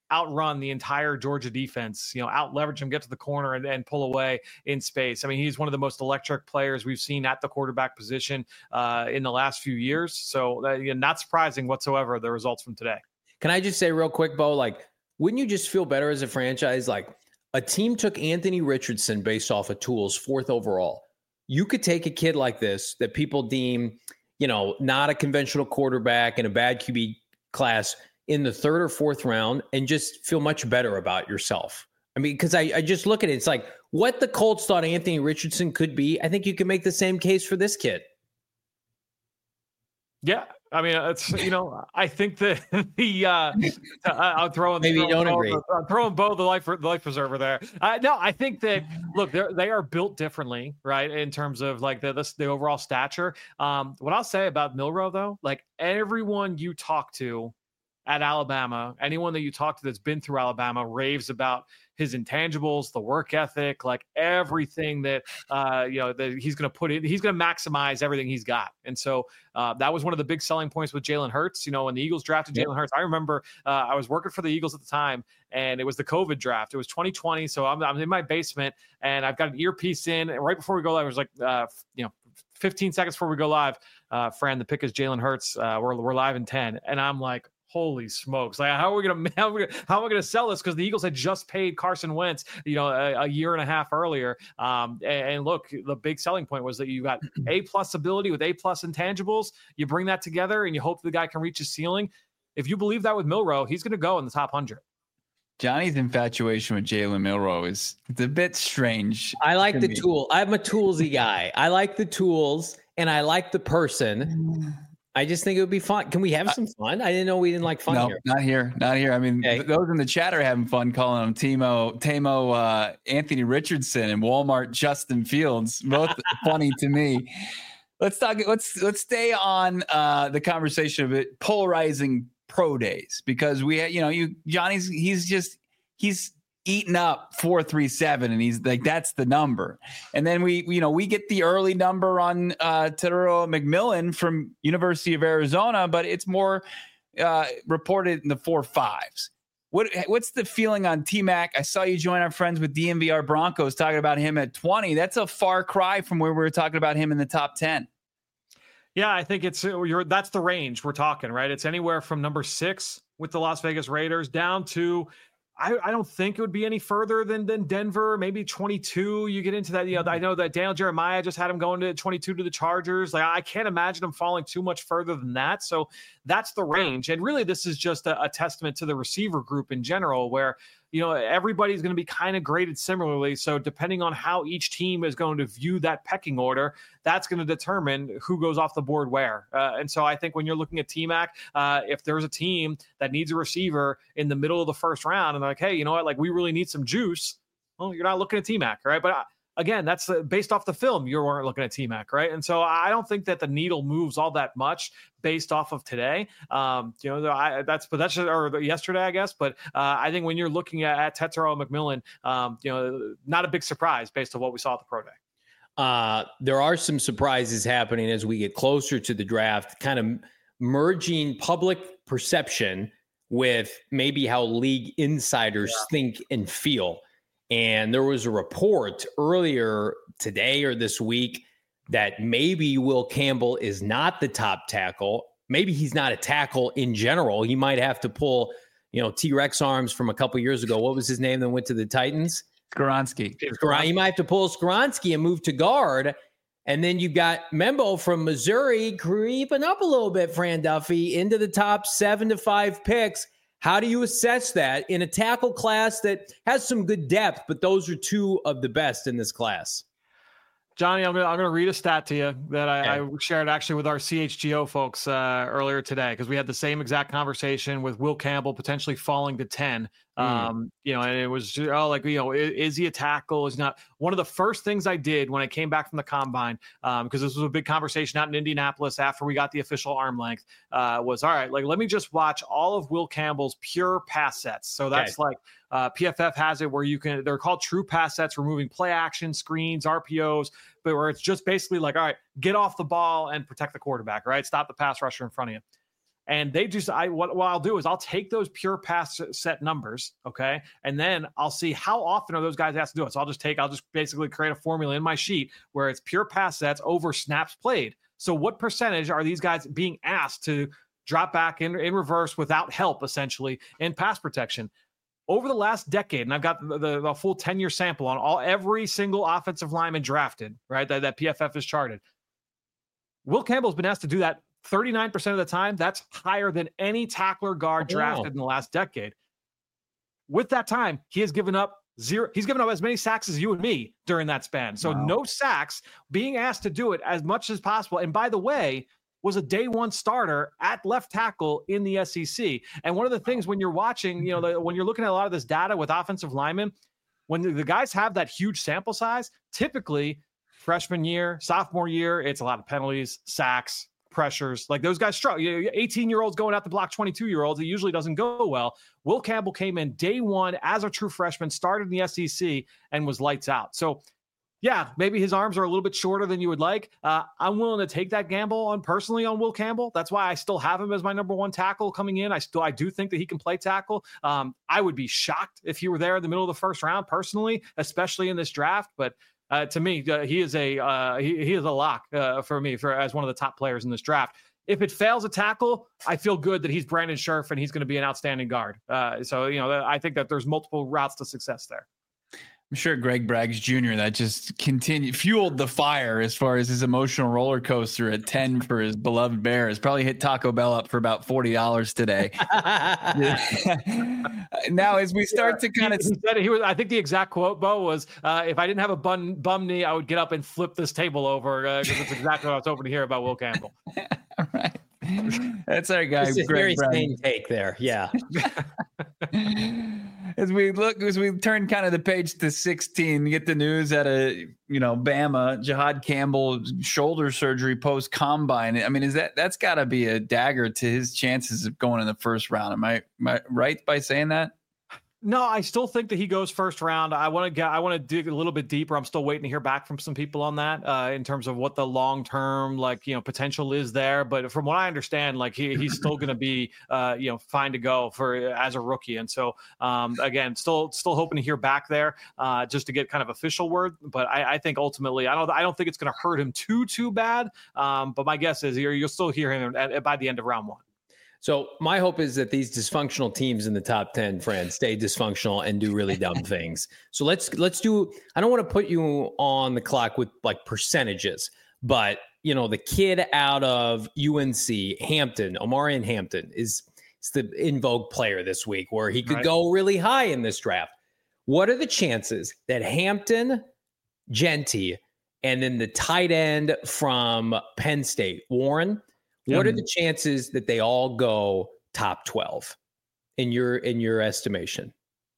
outrun the entire Georgia defense, out leverage him, get to the corner and pull away in space. I mean, he's one of the most electric players we've seen at the quarterback position in the last few years. So not surprising whatsoever, the results from today. Can I just say real quick, Bo, wouldn't you just feel better as a franchise? A team took Anthony Richardson based off of tools, 4th overall. You could take a kid like this that people deem, not a conventional quarterback in a bad QB class in the 3rd or 4th round and just feel much better about yourself. I mean, because I just look at it, it's what the Colts thought Anthony Richardson could be. I think you can make the same case for this kid. Yeah. I mean, it's, I think that I'll throw in, maybe you don't agree. I'm throwing Bo the life preserver there. No, I think that, look, they are built differently, right? In terms of the overall stature. What I'll say about Milroe though, everyone you talk to at Alabama, anyone that you talk to that's been through Alabama raves about his intangibles, the work ethic, everything that, that he's going to put in. He's going to maximize everything he's got. And so that was one of the big selling points with Jalen Hurts. When the Eagles drafted Jalen Hurts, I remember I was working for the Eagles at the time, and it was the COVID draft. It was 2020. So I'm in my basement, and I've got an earpiece in. And right before we go live, it was 15 seconds before we go live, Fran, the pick is Jalen Hurts. We're live in 10. And I'm like, holy smokes! How are we gonna sell this? Because the Eagles had just paid Carson Wentz, a year and a half earlier. And look, the big selling point was that you got A+ ability with A+ intangibles. You bring that together, and you hope the guy can reach his ceiling. If you believe that with Milroe, he's going to go in the top 100. Johnny's infatuation with Jalen Milroe it's a bit strange. I like the tool. I'm a toolsy guy. I like the tools, and I like the person. I just think it would be fun. Can we have some fun? I didn't know we didn't like fun here. Not here. I mean, those in the chat are having fun calling him Tamo, Anthony Richardson, and Walmart Justin Fields. Both funny to me. Let's stay on the conversation of it, polarizing pro days, because Johnny's he's eaten up 437, and he's that's the number. And then we get the early number on Tetairoa McMillan from University of Arizona, but it's more reported in the 4.5s. What's the feeling on T-Mac? I saw you join our friends with DMVR Broncos talking about him at 20. That's a far cry from where we were talking about him in the top 10. Yeah, I think that's the range we're talking, right? It's anywhere from number 6 with the Las Vegas Raiders down to, I don't think it would be any further than Denver, maybe 22. You get into that. I know that Daniel Jeremiah just had him going to 22 to the Chargers. I can't imagine him falling too much further than that. So that's the range. And really, this is just a testament to the receiver group in general, where everybody's going to be kind of graded similarly. So depending on how each team is going to view that pecking order, that's going to determine who goes off the board where. And so I think when you're looking at T-Mac, if there's a team that needs a receiver in the middle of the first round and they're like, hey, you know what, we really need some juice. Well, you're not looking at T-Mac, right? But again, that's based off the film. You weren't looking at T-Mac, right? And so I don't think that the needle moves all that much based off of today. That's yesterday, I guess. But I think when you're looking at Tetairoa McMillan, not a big surprise based on what we saw at the Pro Day. There are some surprises happening as we get closer to the draft, kind of merging public perception with maybe how league insiders think and feel. And there was a report earlier today or this week that maybe Will Campbell is not the top tackle. Maybe he's not a tackle in general. He might have to pull, T-Rex arms from a couple years ago. What was his name that went to the Titans? Skoronski. He might have to pull Skoronski and move to guard. And then you've got Membo from Missouri creeping up a little bit, Fran Duffy, into the top 7 to 5 picks. How do you assess that in a tackle class that has some good depth, but those are two of the best in this class? Johnny, I'm gonna read a stat to you that I shared actually with our CHGO folks earlier today, because we had the same exact conversation with Will Campbell potentially falling to 10. And it was is he a tackle? Is not. One of the first things I did when I came back from the combine, because this was a big conversation out in Indianapolis after we got the official arm length, was all right. Let me just watch all of Will Campbell's pure pass sets. So that's PFF has it where they're called true pass sets, removing play action, screens, RPOs, but where it's just basically all right, get off the ball and protect the quarterback, right? Stop the pass rusher in front of you. And they just, what I'll do is I'll take those pure pass set numbers, okay, and then I'll see how often are those guys asked to do it. So I'll just basically create a formula in my sheet where it's pure pass sets over snaps played. So what percentage are these guys being asked to drop back in reverse without help, essentially, in pass protection? Over the last decade, and I've got the full 10-year sample on every single offensive lineman drafted, right, that PFF has charted. Will Campbell's been asked to do that 39% of the time. That's higher than any tackler guard drafted in the last decade. With that time, he has given up zero. He's given up as many sacks as you and me during that span. So no sacks, being asked to do it as much as possible. And by the way, was a day one starter at left tackle in the SEC. And one of the things when you're watching, when you're looking at a lot of this data with offensive linemen, when the guys have that huge sample size, typically freshman year, sophomore year, it's a lot of penalties, sacks, pressures. Like those guys struggle. 18-year-olds going out to block 22-year-olds. It usually doesn't go well. Will Campbell came in day one as a true freshman, started in the SEC, and was lights out. So, yeah, maybe his arms are a little bit shorter than you would like. I'm willing to take that gamble personally on Will Campbell. That's why I still have him as my number one tackle coming in. I do think that he can play tackle. I would be shocked if he were there in the middle of the first round personally, especially in this draft. But to me, he is a lock for me as one of the top players in this draft. If it fails a tackle, I feel good that he's Brandon Scherff and he's going to be an outstanding guard. I think that there's multiple routes to success there. I'm sure Greg Braggs Jr. that just fueled the fire as far as his emotional roller coaster at 10 for his beloved Bears. Probably hit Taco Bell up for about $40 today. Now, as we start to kind of, I think the exact quote, Bo, was, "If I didn't have a bum knee, I would get up and flip this table over." Because it's exactly what I was hoping to hear about Will Campbell. All right. That's our guy. It's a very sane take there. Yeah. As we turn kind of the page to 16, we get the news at Bama, Jihad Campbell shoulder surgery post combine. I mean, that's got to be a dagger to his chances of going in the first round? Am I right by saying that? No, I still think that he goes first round. I want to dig a little bit deeper. I'm still waiting to hear back from some people on that in terms of what the long-term potential is there. But from what I understand, he's still going to be fine to go as a rookie. And so again, still hoping to hear back there just to get kind of official word. But I think ultimately, I don't think it's going to hurt him too bad. But my guess is you'll still hear him by the end of round one. So my hope is that these dysfunctional teams in the top 10, friends, stay dysfunctional and do really dumb things. So let's do, I don't want to put you on the clock with percentages, but the kid out of UNC, Hampton, Omarion Hampton is the in vogue player this week where he could go really high in this draft. What are the chances that Hampton, Genty, and then the tight end from Penn State, Warren, what are the chances that they all go top 12 in your estimation?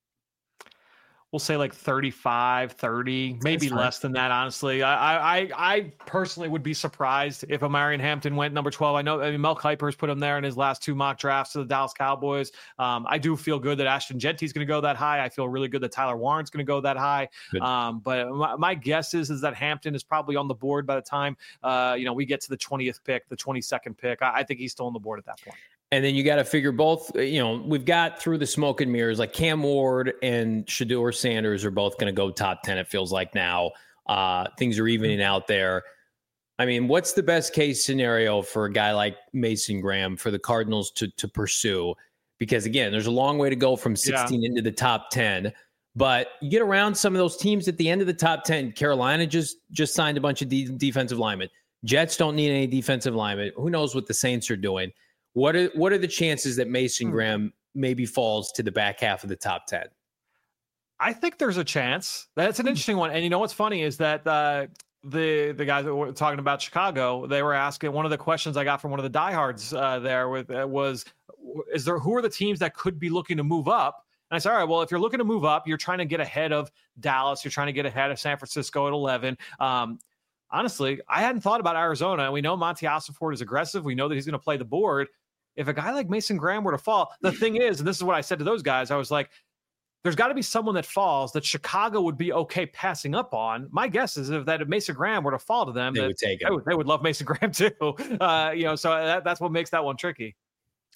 We'll say 35, 30, maybe less than that, honestly. I personally would be surprised if Omarion Hampton went number 12. Mel Kiper's put him there in his last two mock drafts to the Dallas Cowboys. I do feel good that Ashton Genty's going to go that high. I feel really good that Tyler Warren's going to go that high. But my guess is that Hampton is probably on the board by the time we get to the 20th pick, the 22nd pick. I think he's still on the board at that point. And then you got to figure both, we've got through the smoke and mirrors, like Cam Ward and Shedeur Sanders are both going to go top 10. It feels like now things are evening out there. I mean, what's the best case scenario for a guy like Mason Graham for the Cardinals to pursue? Because again, there's a long way to go from 16 into the top 10, but you get around some of those teams at the end of the top 10. Carolina just signed a bunch of defensive linemen. Jets don't need any defensive linemen. Who knows what the Saints are doing? What are the chances that Mason Graham maybe falls to the back half of the top 10? I think there's a chance. That's an interesting one. And what's funny is that the guys that were talking about Chicago, they were asking, one of the questions I got from one of the diehards was who are the teams that could be looking to move up? And I said, all right, well, if you're looking to move up, you're trying to get ahead of Dallas. You're trying to get ahead of San Francisco at 11. Honestly, I hadn't thought about Arizona. We know Monty Ossenfort is aggressive. We know that he's going to play the board. If a guy like Mason Graham were to fall, the thing is, and this is what I said to those guys, I was like, there's got to be someone that falls that Chicago would be okay passing up on. My guess is if Mason Graham were to fall to them, they would take it. They would love Mason Graham too. So that's what makes that one tricky.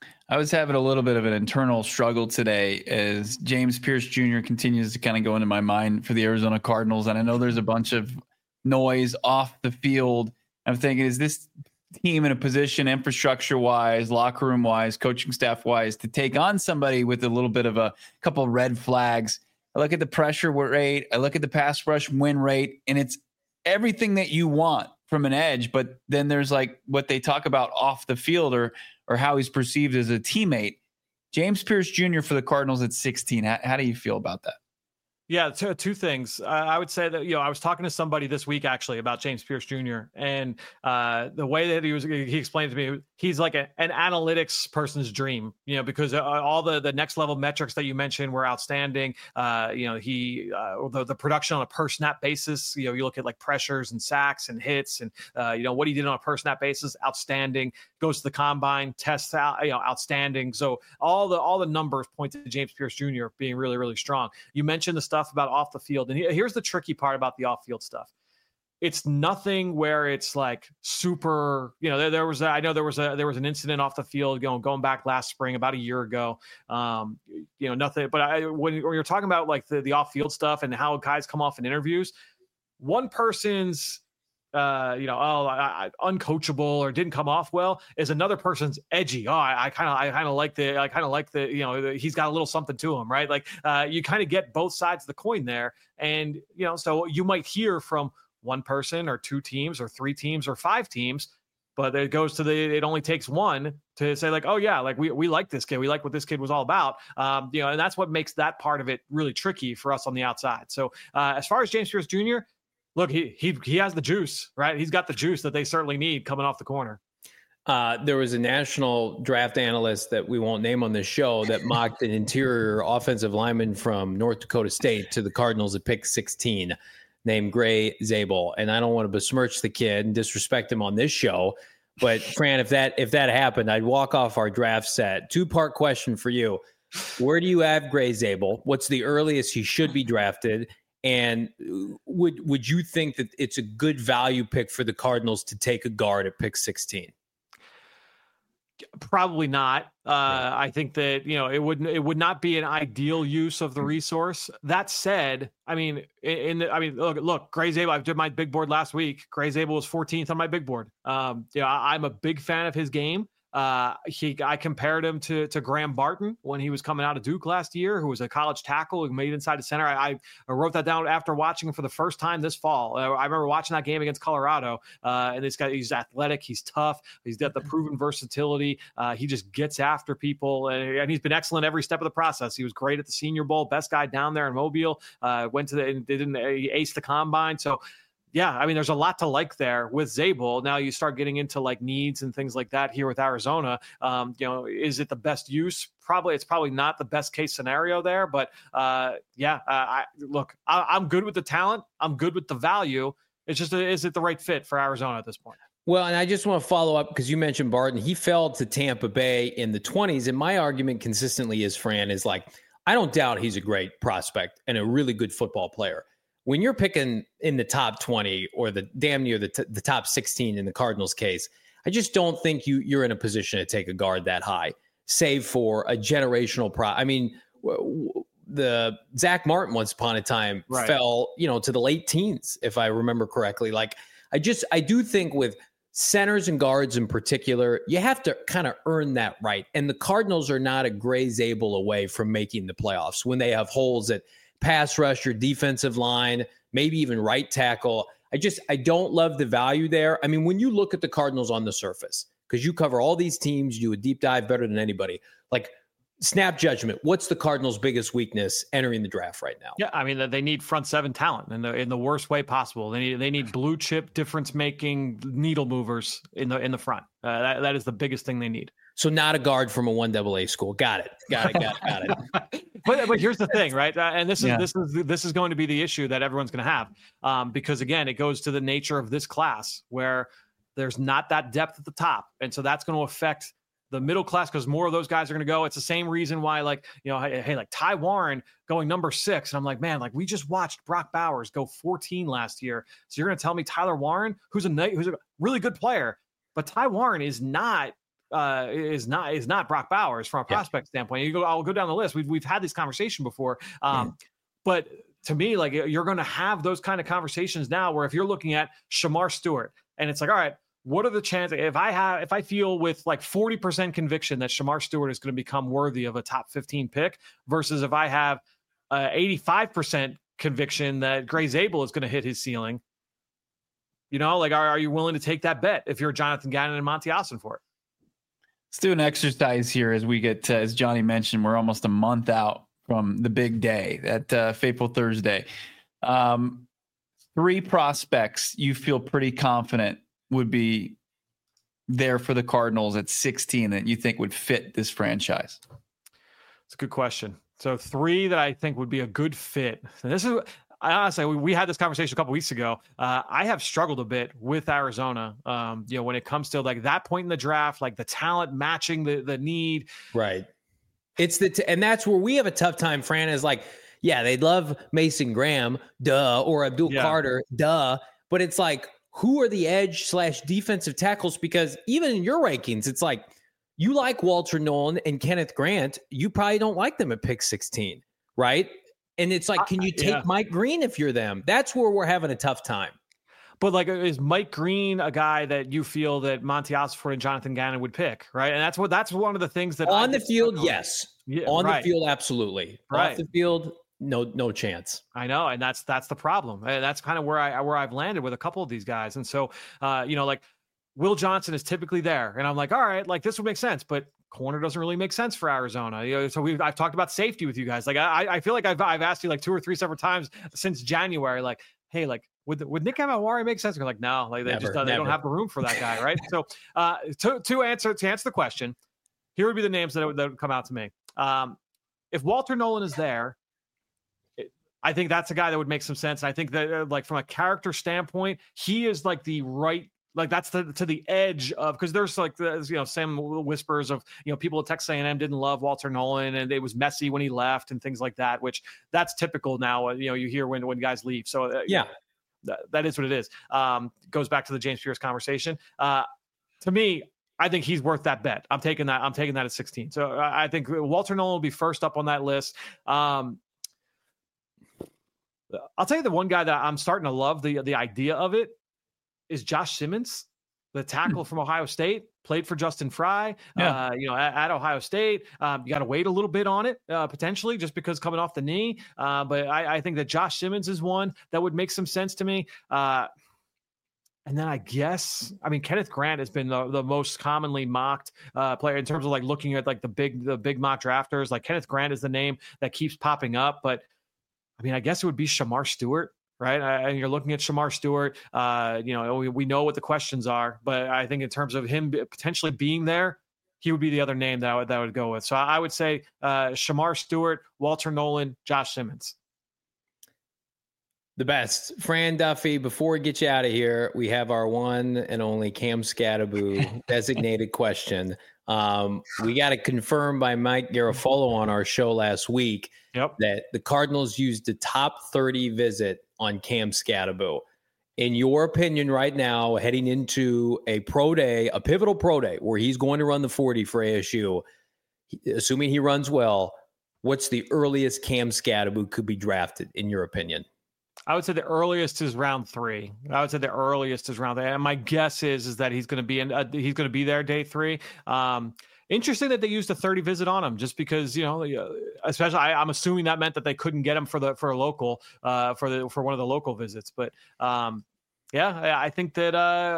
I was having a little bit of an internal struggle today as James Pierce Jr. continues to kind of go into my mind for the Arizona Cardinals. And I know there's a bunch of noise off the field. I'm thinking, is this team in a position infrastructure wise, locker room wise, coaching staff wise to take on somebody with a little bit of a couple red flags? I look at the pressure rate, I look at the pass rush win rate, and it's everything that you want from an edge. But then there's like what they talk about off the field or how he's perceived as a teammate. James Pierce Jr. for the Cardinals at 16. How do you feel about that? Yeah, two things. I would say that, I was talking to somebody this week actually about James Pierce Jr. and the way that he explained to me, he's like an analytics person's dream, because all the next level metrics that you mentioned were outstanding. The production on a per snap basis, you look at like pressures and sacks and hits and, what he did on a per snap basis, outstanding. Goes to the combine, tests out, outstanding. So all the numbers point to James Pierce Jr. being really, really strong. You mentioned the stuff about off the field, and here's the tricky part about the off field stuff. It's nothing where it's like super, there was an incident off the field going back last spring, about a year ago. Nothing, but when you're talking about like the off field stuff and how guys come off in interviews, one person's uncoachable or didn't come off well is another person's edgy. I kind of like the he's got a little something to him, right? Like you kind of get both sides of the coin there. And, so you might hear from one person or two teams or three teams or five teams, but it goes to it only takes one to say like, oh yeah, like we like this kid. We like what this kid was all about. And that's what makes that part of it really tricky for us on the outside. So as far as James Pierce Jr., look, he has the juice, right? He's got the juice that they certainly need coming off the corner. There was a national draft analyst that we won't name on this show that mocked an interior offensive lineman from North Dakota State to the Cardinals at pick 16 named Gray Zabel. And I don't want to besmirch the kid and disrespect him on this show. But Fran, if that happened, I'd walk off our draft set. 2-part question for you. Where do you have Gray Zabel? What's the earliest he should be drafted? And would you think that it's a good value pick for the Cardinals to take a guard at pick 16? Probably not. I think that, it would not be an ideal use of the resource. That said, look, Gray Zabel, I did my big board last week. Gray Zabel was 14th on my big board. I'm a big fan of his game. I compared him to Graham Barton when he was coming out of Duke last year, who was a college tackle who made inside the center. I wrote that down after watching him for the first time this fall. I remember watching that game against Colorado, and this guy, he's athletic, he's tough, he's got the proven versatility. He just gets after people, and he's been excellent every step of the process. He was great at the Senior Bowl, best guy down there in Mobile. He aced the combine. So yeah, there's a lot to like there with Zabel. Now you start getting into like needs and things like that here with Arizona. Is it the best use? It's probably not the best case scenario there, but I'm good with the talent. I'm good with the value. It's just, is it the right fit for Arizona at this point? Well, and I just want to follow up because you mentioned Barton. He fell to Tampa Bay in the 20s. And my argument consistently is, Fran, is like, I don't doubt he's a great prospect and a really good football player. When you're picking in the top 20 or the damn near the top 16 in the Cardinals case, I just don't think you're in a position to take a guard that high, save for a generational the Zach Martin once upon a time fell, to the late teens, if I remember correctly. Like I do think with centers and guards in particular, you have to kind of earn that right. And the Cardinals are not a Gray Zabel away from making the playoffs when they have holes at pass rush, your defensive line, maybe even right tackle. I don't love the value there. When you look at the Cardinals on the surface, because you cover all these teams, you do a deep dive better than anybody. Like, snap judgment, what's the Cardinals' biggest weakness entering the draft right now? Yeah, they need front seven talent in the worst way possible. They need blue chip, difference making needle movers in the front. That is the biggest thing they need. So not a guard from a 1AA school. Got it. But here's the thing, right? And this is going to be the issue that everyone's going to have, because again, it goes to the nature of this class where there's not that depth at the top, and so that's going to affect the middle class because more of those guys are going to go. It's the same reason why, like, like Ty Warren going number 6, and I'm like, man, like we just watched Brock Bowers go 14 last year, so you're going to tell me Tyler Warren, who's a really good player, but Ty Warren is not is not Brock Bowers from a prospect standpoint. I'll go down the list. We've had this conversation before, but to me, like, you're going to have those kind of conversations now where if you're looking at Shamar Stewart and it's like, all right, what are the chances if I feel with like 40% conviction that Shamar Stewart is going to become worthy of a top 15 pick versus if I have 85% conviction that Gray Zabel is going to hit his ceiling, like, are you willing to take that bet if you're Jonathan Gannon and Monty Ossenfort? Let's do an exercise here as we get to, as Johnny mentioned, we're almost a month out from the big day, that fateful Thursday. 3 prospects you feel pretty confident would be there for the Cardinals at 16 that you think would fit this franchise? It's a good question. So 3 that I think would be a good fit. And this is, honestly, we had this conversation a couple weeks ago. I have struggled a bit with Arizona. When it comes to like that point in the draft, like the talent matching the need. Right. It's and that's where we have a tough time. Fran is like, yeah, they'd love Mason Graham, duh, or Abdul Carter, duh. But it's like, who are the edge/defensive tackles? Because even in your rankings, it's like, you like Walter Nolan and Kenneth Grant. You probably don't like them at pick 16, right? And it's like, can you take Mike Green if you're them? That's where we're having a tough time. But like, is Mike Green a guy that you feel that Monty Ossenfort and Jonathan Gannon would pick, right? And that's one of the things that on the field, yes. Yeah, on the field, absolutely. Right. Off the field, no chance. I know, and that's the problem. And that's kind of where I've landed with a couple of these guys. And so, like Will Johnson is typically there, and I'm like, all right, like this would make sense, but corner doesn't really make sense for Arizona. So I've talked about safety with you guys. Like I feel like I've asked you like 2 or 3 separate times since January, like, hey, like would Nick Amawari make sense? You're like, no, like they don't have the room for that guy, right? So to answer the question, here would be the names that would come out to me. If Walter Nolan is there, I think that's a guy that would make some sense. And I think that like from a character standpoint, he is like the right. Like that's to the edge of, because there's like some whispers of people at Texas A&M didn't love Walter Nolan and it was messy when he left and things like that, which that's typical now. You hear when guys leave. So that is what it is. Goes back to the James Pierce conversation. To me, I think he's worth that bet. I'm taking that at 16. So I think Walter Nolan will be first up on that list. I'll tell you the one guy that I'm starting to love the idea of it is Josh Simmons, the tackle from Ohio State, played for Justin Fry, at Ohio State. You got to wait a little bit on it, potentially, just because coming off the knee. But I think that Josh Simmons is one that would make some sense to me. And then I guess, Kenneth Grant has been the most commonly mocked player in terms of like looking at like the big mock drafters. Like Kenneth Grant is the name that keeps popping up. But I guess it would be Shamar Stewart. Right. And you're looking at Shamar Stewart. We know what the questions are, but I think in terms of him potentially being there, he would be the other name that I would go with. So I would say Shamar Stewart, Walter Nolan, Josh Simmons. The best. Fran Duffy, before we get you out of here, we have our one and only Cam Scattaboo designated question. We got it confirmed by Mike Garafolo on our show last week that the Cardinals used the top 30 visit on Cam Scattaboo. In your opinion right now, heading into a pivotal pro day where he's going to run the 40 for ASU, assuming he runs well, what's the earliest Cam Scattaboo could be drafted in your opinion? I would say the earliest is round 3. And my guess is that he's going to be there day 3. Interesting that they used a 30 visit on him, just because especially I'm assuming that meant that they couldn't get him for a local for one of the local visits. But I think that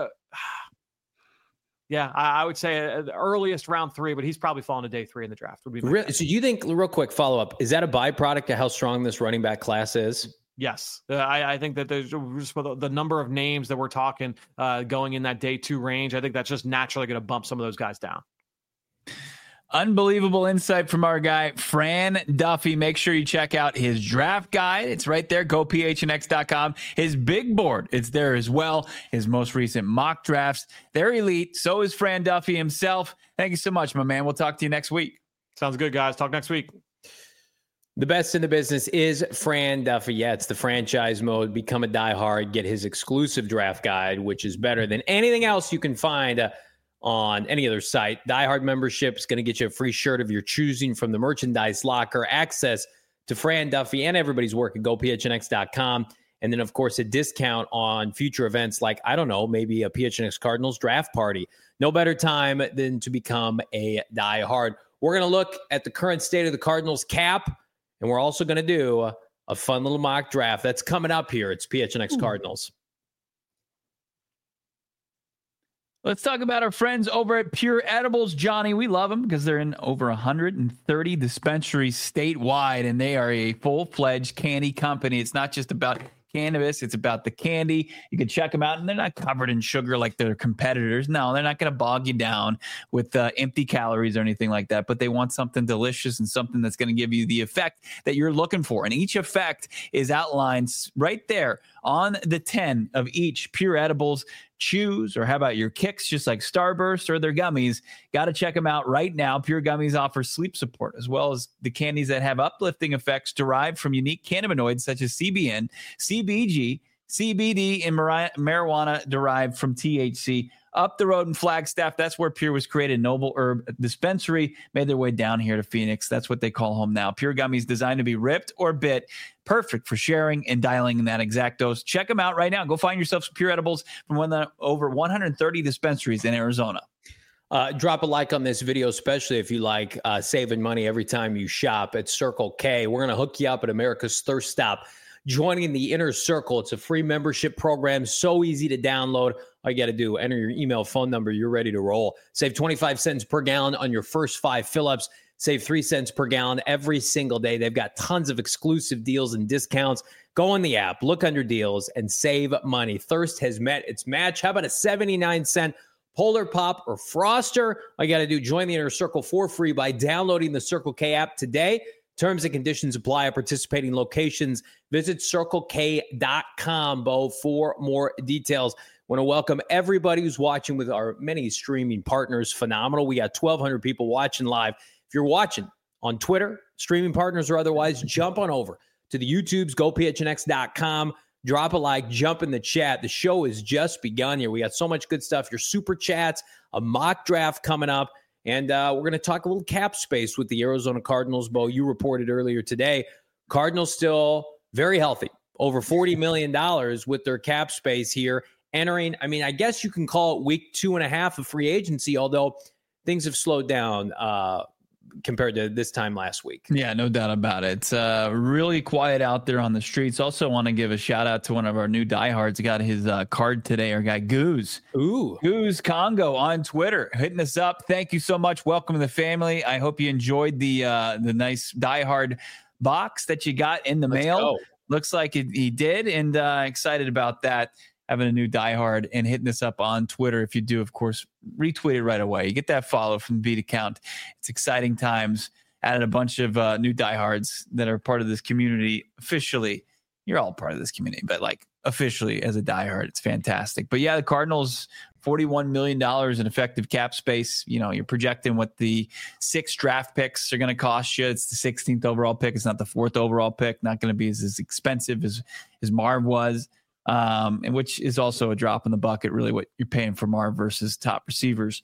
I would say the earliest round 3, but he's probably falling to day 3 in the draft. Would be so you think, real quick follow up, is that a byproduct of how strong this running back class is? Yes. I think that there's just the number of names that we're talking going in that day 2 range. I think that's just naturally going to bump some of those guys down. Unbelievable insight from our guy, Fran Duffy. Make sure you check out his draft guide. It's right there. GoPHNX.com. His big board, it's there as well. His most recent mock drafts. They're elite. So is Fran Duffy himself. Thank you so much, my man. We'll talk to you next week. Sounds good, guys. Talk next week. The best in the business is Fran Duffy. Yeah, it's the franchise mode. Become a diehard. Get his exclusive draft guide, which is better than anything else you can find on any other site. Diehard membership is going to get you a free shirt of your choosing from the merchandise locker, access to Fran Duffy and everybody's work at GoPHNX.com. And then, of course, a discount on future events like, I don't know, maybe a PHNX Cardinals draft party. No better time than to become a diehard. We're going to look at the current state of the Cardinals cap, and we're also going to do a fun little mock draft. That's coming up here. It's PHNX Cardinals. Let's talk about our friends over at Pure Edibles, Johnny. We love them because they're in over 130 dispensaries statewide, and they are a full-fledged candy company. It's not just about cannabis, it's about the candy. You can check them out, and they're not covered in sugar like their competitors. No, they're not going to bog you down with empty calories or anything like that, but they want something delicious and something that's going to give you the effect that you're looking for. And each effect is outlined right there on the 10 of each Pure Edibles chews, or how about your kicks, just like Starburst or their gummies. Got to check them out right now. Pure Gummies offer sleep support, as well as the candies that have uplifting effects derived from unique cannabinoids such as CBN, CBG, CBD, and marijuana derived from THC. Up the road in Flagstaff, that's where Pure was created. Noble Herb Dispensary made their way down here to Phoenix. That's what they call home now. Pure Gummies designed to be ripped or bit. Perfect for sharing and dialing in that exact dose. Check them out right now. Go find yourself some Pure Edibles from one of the over 130 dispensaries in Arizona. Drop a like on this video, especially if you like saving money every time you shop at Circle K. We're going to hook you up at America's Thirst Stop. Joining the Inner Circle. It's a free membership program, so easy to download. All you got to do, enter your email, phone number, you're ready to roll. Save 25 cents per gallon on your first 5 fill-ups. Save 3 cents per gallon every single day. They've got tons of exclusive deals and discounts. Go on the app, look under deals, and save money. Thirst has met its match. How about a 79-cent Polar Pop or Froster? All you got to do, join the Inner Circle for free by downloading the Circle K app today. Terms and conditions apply at participating locations. Visit CircleK.com, Bo, for more details. Want to welcome everybody who's watching with our many streaming partners. Phenomenal. We got 1,200 people watching live. If you're watching on Twitter, streaming partners or otherwise, jump on over to the YouTubes, GoPHNX.com. Drop a like, jump in the chat. The show has just begun here. We got so much good stuff. Your super chats, a mock draft coming up. And we're going to talk a little cap space with the Arizona Cardinals. Bo, you reported earlier today, Cardinals still very healthy, over $40 million with their cap space here. Entering, I mean, I guess you can call it week 2.5 of free agency, although things have slowed down compared to this time last week. Yeah, no doubt about it. It's really quiet out there on the streets. Also want to give a shout out to one of our new diehards. Got his card today. Our guy Goose. Ooh. Goose Congo on Twitter hitting us up. Thank you so much. Welcome to the family. I hope you enjoyed the nice diehard box that you got in the mail. Go. Looks like he did, and excited about that. Having a new diehard and hitting this up on Twitter. If you do, of course, retweet it right away. You get that follow from the Beat account. It's exciting times. Added a bunch of new diehards that are part of this community officially. You're all part of this community, but like officially as a diehard, it's fantastic. But yeah, the Cardinals, $41 million in effective cap space. You know, you're projecting what the 6 draft picks are going to cost you. It's the 16th overall pick. It's not the 4th overall pick. Not going to be as expensive as Marv was. And which is also a drop in the bucket, really, what you're paying for Marv versus top receivers.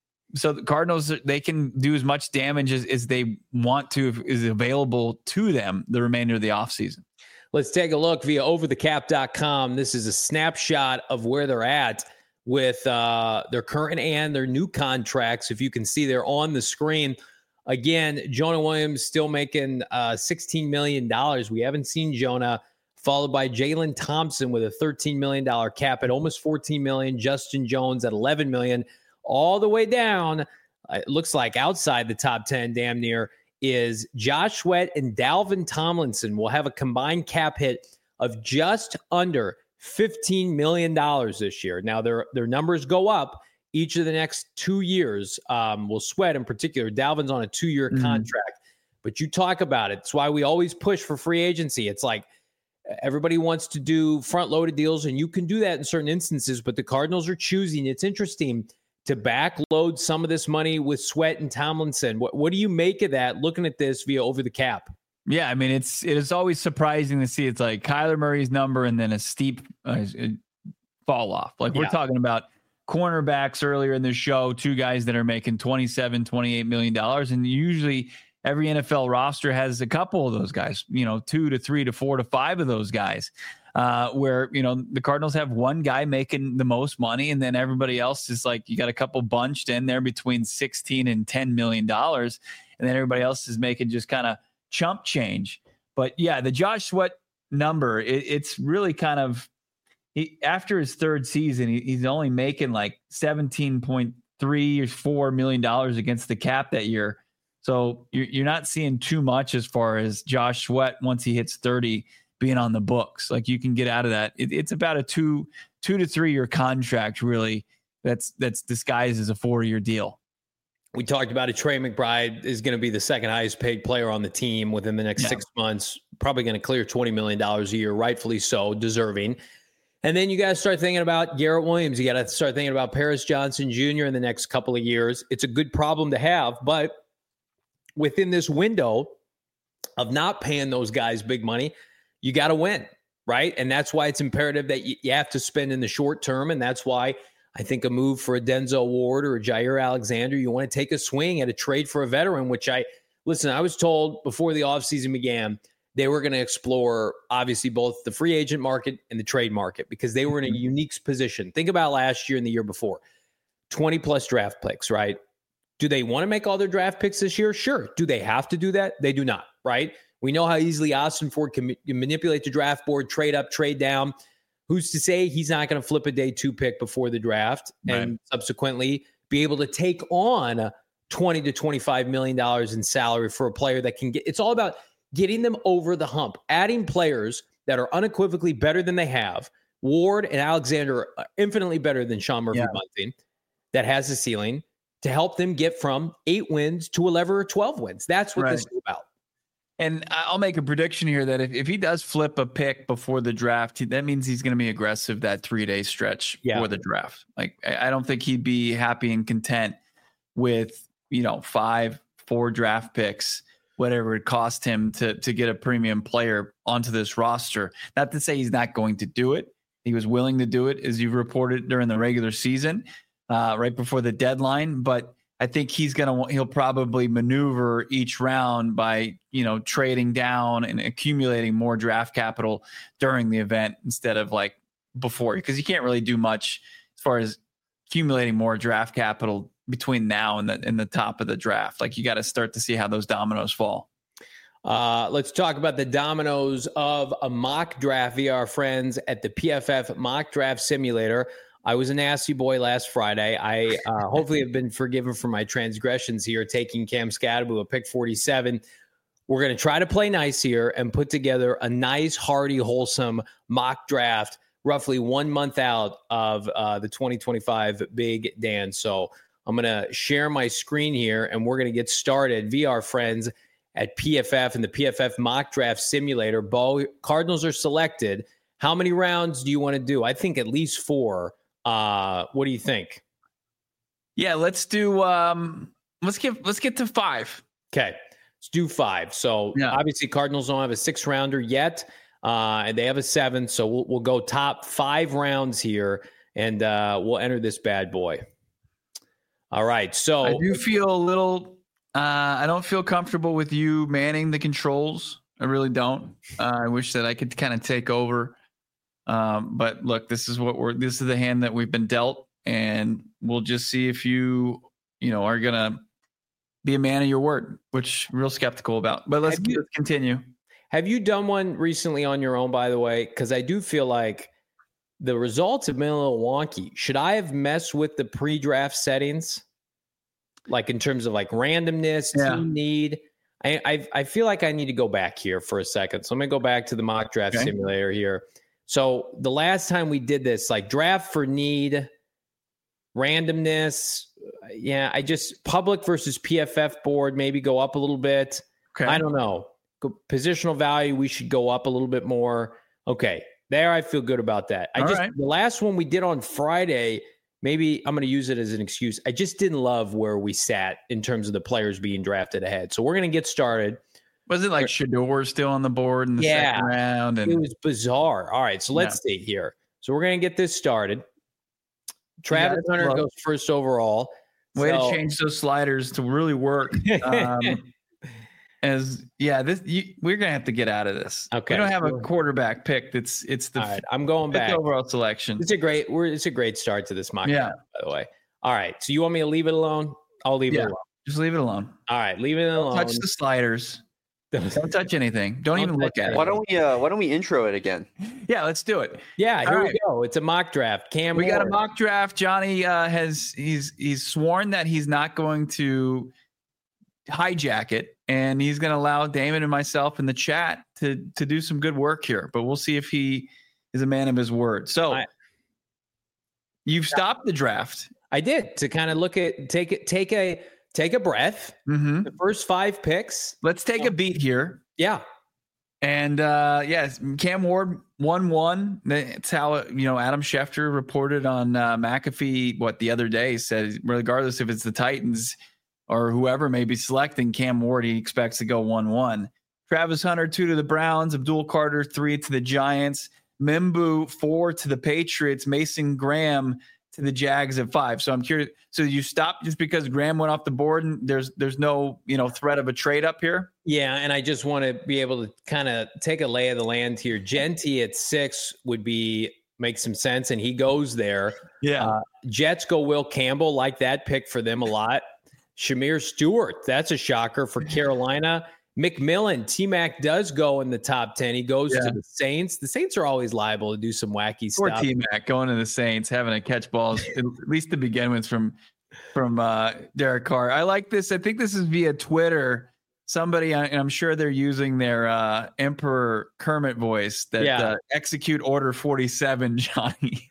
So the Cardinals, they can do as much damage as they want to, is available to them the remainder of the offseason. Let's take a look via overthecap.com. This is a snapshot of where they're at with their current and their new contracts. If you can see, they're on the screen. Again, Jonah Williams still making $16 million. We haven't seen Jonah, followed by Jalen Thompson with a $13 million cap at almost $14 million. Justin Jones at $11 million. All the way down, it looks like outside the top 10, damn near, is Josh Sweat and Dalvin Tomlinson will have a combined cap hit of just under $15 million this year. Now, their numbers go up each of the next 2 years. Will Sweat in particular. Dalvin's on a 2-year contract. But you talk about it. It's why we always push for free agency. It's like, everybody wants to do front-loaded deals, and you can do that in certain instances, but the Cardinals are choosing. It's interesting to backload some of this money with Sweat and Tomlinson. What do you make of that, looking at this via Over the Cap? Yeah, I mean, it is always surprising to see. It's like Kyler Murray's number and then a steep fall off. Like we're talking about cornerbacks earlier in the show, two guys that are making $27-28 million. And usually every NFL roster has a couple of those guys, 2 to 3 to 4 to 5 of those guys, where, the Cardinals have one guy making the most money. And then everybody else is like, you got a couple bunched in there between 16 and $10 million. And then everybody else is making just kind of chump change. But yeah, the Josh Sweat number, it's really kind of, after his third season, he's only making like $17.3 or $4 million against the cap that year. So you're not seeing too much as far as Josh Sweat once he hits 30 being on the books. Like you can get out of that. It's about a 2 to 3 year contract, really. That's disguised as a 4-year deal. We talked about it. Trey McBride is going to be the second highest paid player on the team within the next 6 months. Probably going to clear $20 million a year, rightfully so, deserving. And then you got to start thinking about Garrett Williams. You got to start thinking about Paris Johnson Jr. in the next couple of years. It's a good problem to have, but within this window of not paying those guys big money, you got to win, right? And that's why it's imperative that you have to spend in the short term. And that's why I think a move for a Denzel Ward or a Jair Alexander, you want to take a swing at a trade for a veteran, which I was told before the offseason began, they were going to explore, obviously, both the free agent market and the trade market because they were in a unique position. Think about last year and the year before. 20-plus draft picks, right? Do they want to make all their draft picks this year? Sure. Do they have to do that? They do not, right? We know how easily Austin Ford can manipulate the draft board, trade up, trade down. Who's to say he's not going to flip a day 2 pick before the draft and subsequently be able to take on $20 to $25 million in salary for a player that can get – it's all about – getting them over the hump, adding players that are unequivocally better than they have. Ward and Alexander are infinitely better than Sean Murphy-Bunting that has a ceiling to help them get from 8 wins to 11 or 12 wins. That's what this is about. And I'll make a prediction here that if he does flip a pick before the draft, that means he's going to be aggressive that 3-day stretch for the draft. Like, I don't think he'd be happy and content with, 5-4 draft picks, whatever it cost him to get a premium player onto this roster. Not to say he's not going to do it. He was willing to do it, as you've reported, during the regular season, right before the deadline. But I think he'll probably maneuver each round by, trading down and accumulating more draft capital during the event instead of like before, because you can't really do much as far as accumulating more draft capital between now and the top of the draft. Like you got to start to see how those dominoes fall. Let's talk about the dominoes of a mock draft via our friends at the PFF Mock Draft Simulator. I was a nasty boy last Friday. I hopefully have been forgiven for my transgressions here, taking Cam Skattebo at pick 47. We're going to try to play nice here and put together a nice, hearty, wholesome mock draft roughly 1 month out of the 2025 Big Dance. So I'm going to share my screen here, and we're going to get started via our friends at PFF and the PFF Mock Draft Simulator. Bo, Cardinals are selected. How many rounds do you want to do? I think at least 4. What do you think? Yeah, let's do. Let's get to 5. Okay, let's do 5. So obviously, Cardinals don't have a 6th rounder yet, and they have a 7th. So we'll go top 5 rounds here, and we'll enter this bad boy. All right. So I do feel a little. I don't feel comfortable with you manning the controls. I really don't. I wish that I could kind of take over. But look, this is the hand that we've been dealt, and we'll just see if you are gonna be a man of your word, which I'm real skeptical about. But let's continue. Have you done one recently on your own, by the way? Because I do feel like the results have been a little wonky. Should I have messed with the pre-draft settings, like in terms of like randomness, team need? I feel like I need to go back here for a second. So I'm gonna go back to the mock draft simulator here. So the last time we did this, like draft for need, randomness, I just public versus PFF board, maybe go up a little bit. Okay. I don't know. Positional value, we should go up a little bit more. Okay. There, I feel good about that. The last one we did on Friday, maybe I'm going to use it as an excuse. I just didn't love where we sat in terms of the players being drafted ahead. So we're going to get started. Was it like Shedeur still on the board in the second round? It was bizarre. All right, so let's see here. So we're going to get this started. Travis Hunter goes first overall. Way to change those sliders to really work. We're gonna have to get out of this. Okay, we don't have a quarterback pick. It's the. All right, I'm going back. Overall selection. It's a great start to this mock draft, by the way. All right, so you want me to leave it alone? I'll leave it alone. Just leave it alone. All right, leave it alone. Don't touch the sliders. Don't touch anything. Don't even look at it. Why don't we intro it again? Yeah, let's do it. Yeah, here we go. It's a mock draft. We got a mock draft. Johnny he's sworn that he's not going to hijack it, and he's going to allow Damon and myself in the chat to do some good work here. But we'll see if he is a man of his word. So you've stopped the draft. I did, to kind of look at take a breath. Mm-hmm. The first 5 picks. Let's take a beat here. Yeah. And yes, Cam Ward 1-1. That's how Adam Schefter reported on McAfee the other day. Said regardless if it's the Titans or whoever may be selecting Cam Ward, he expects to go 1-1. Travis Hunter 2 to the Browns. Abdul Carter 3 to the Giants. Mimbu 4 to the Patriots. Mason Graham to the Jags at 5. So I'm curious. So you stopped just because Graham went off the board and there's no threat of a trade up here? Yeah, and I just want to be able to kind of take a lay of the land here. Genty at 6 would make some sense, and he goes there. Yeah. Jets go Will Campbell, like that pick for them a lot. Shamir Stewart, that's a shocker for Carolina. McMillan, T-Mac does go in the top 10. He goes to the Saints. The Saints are always liable to do some wacky stuff. Poor T-Mac going to the Saints, having to catch balls, at least to begin with, from Derek Carr. I like this. I think this is via Twitter. Somebody, and I'm sure they're using their Emperor Kermit voice that execute Order 47, Johnny.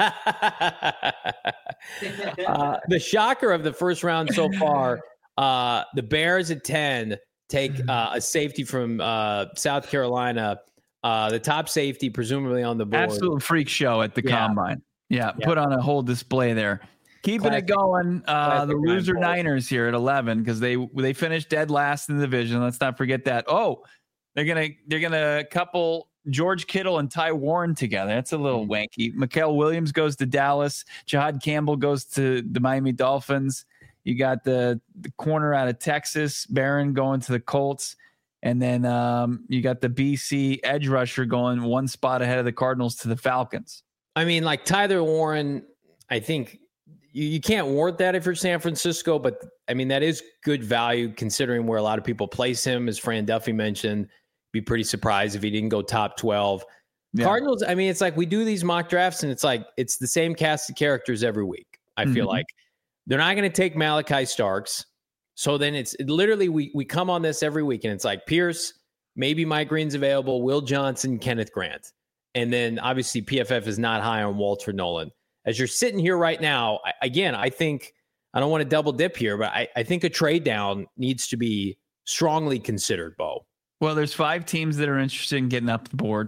The shocker of the first round so far, the Bears at 10 take a safety from South Carolina, the top safety presumably on the board. Absolute freak show at the Combine. Yeah, put on a whole display there. Keeping it going, the loser Niners here at 11 because they finished dead last in the division. Let's not forget that. Oh, they're gonna couple George Kittle and Ty Warren together. That's a little wanky. Mikael Williams goes to Dallas. Jahad Campbell goes to the Miami Dolphins. You got the corner out of Texas, Barron, going to the Colts. And then you got the BC edge rusher going one spot ahead of the Cardinals to the Falcons. I mean, like Tyler Warren, I think you can't warrant that if you're San Francisco, but I mean, that is good value considering where a lot of people place him. As Fran Duffy mentioned, be pretty surprised if he didn't go top 12. Yeah. Cardinals, I mean, it's like we do these mock drafts and it's the same cast of characters every week. I feel like they're not going to take Malachi Starks. So then it's literally, we come on this every week and it's like Pierce, maybe Mike Green's available, Will Johnson, Kenneth Grant. And then obviously PFF is not high on Walter Nolan. As you're sitting here right now, I think, I don't want to double dip here, but I think a trade down needs to be strongly considered, Bo. Well, there's 5 teams that are interested in getting up the board.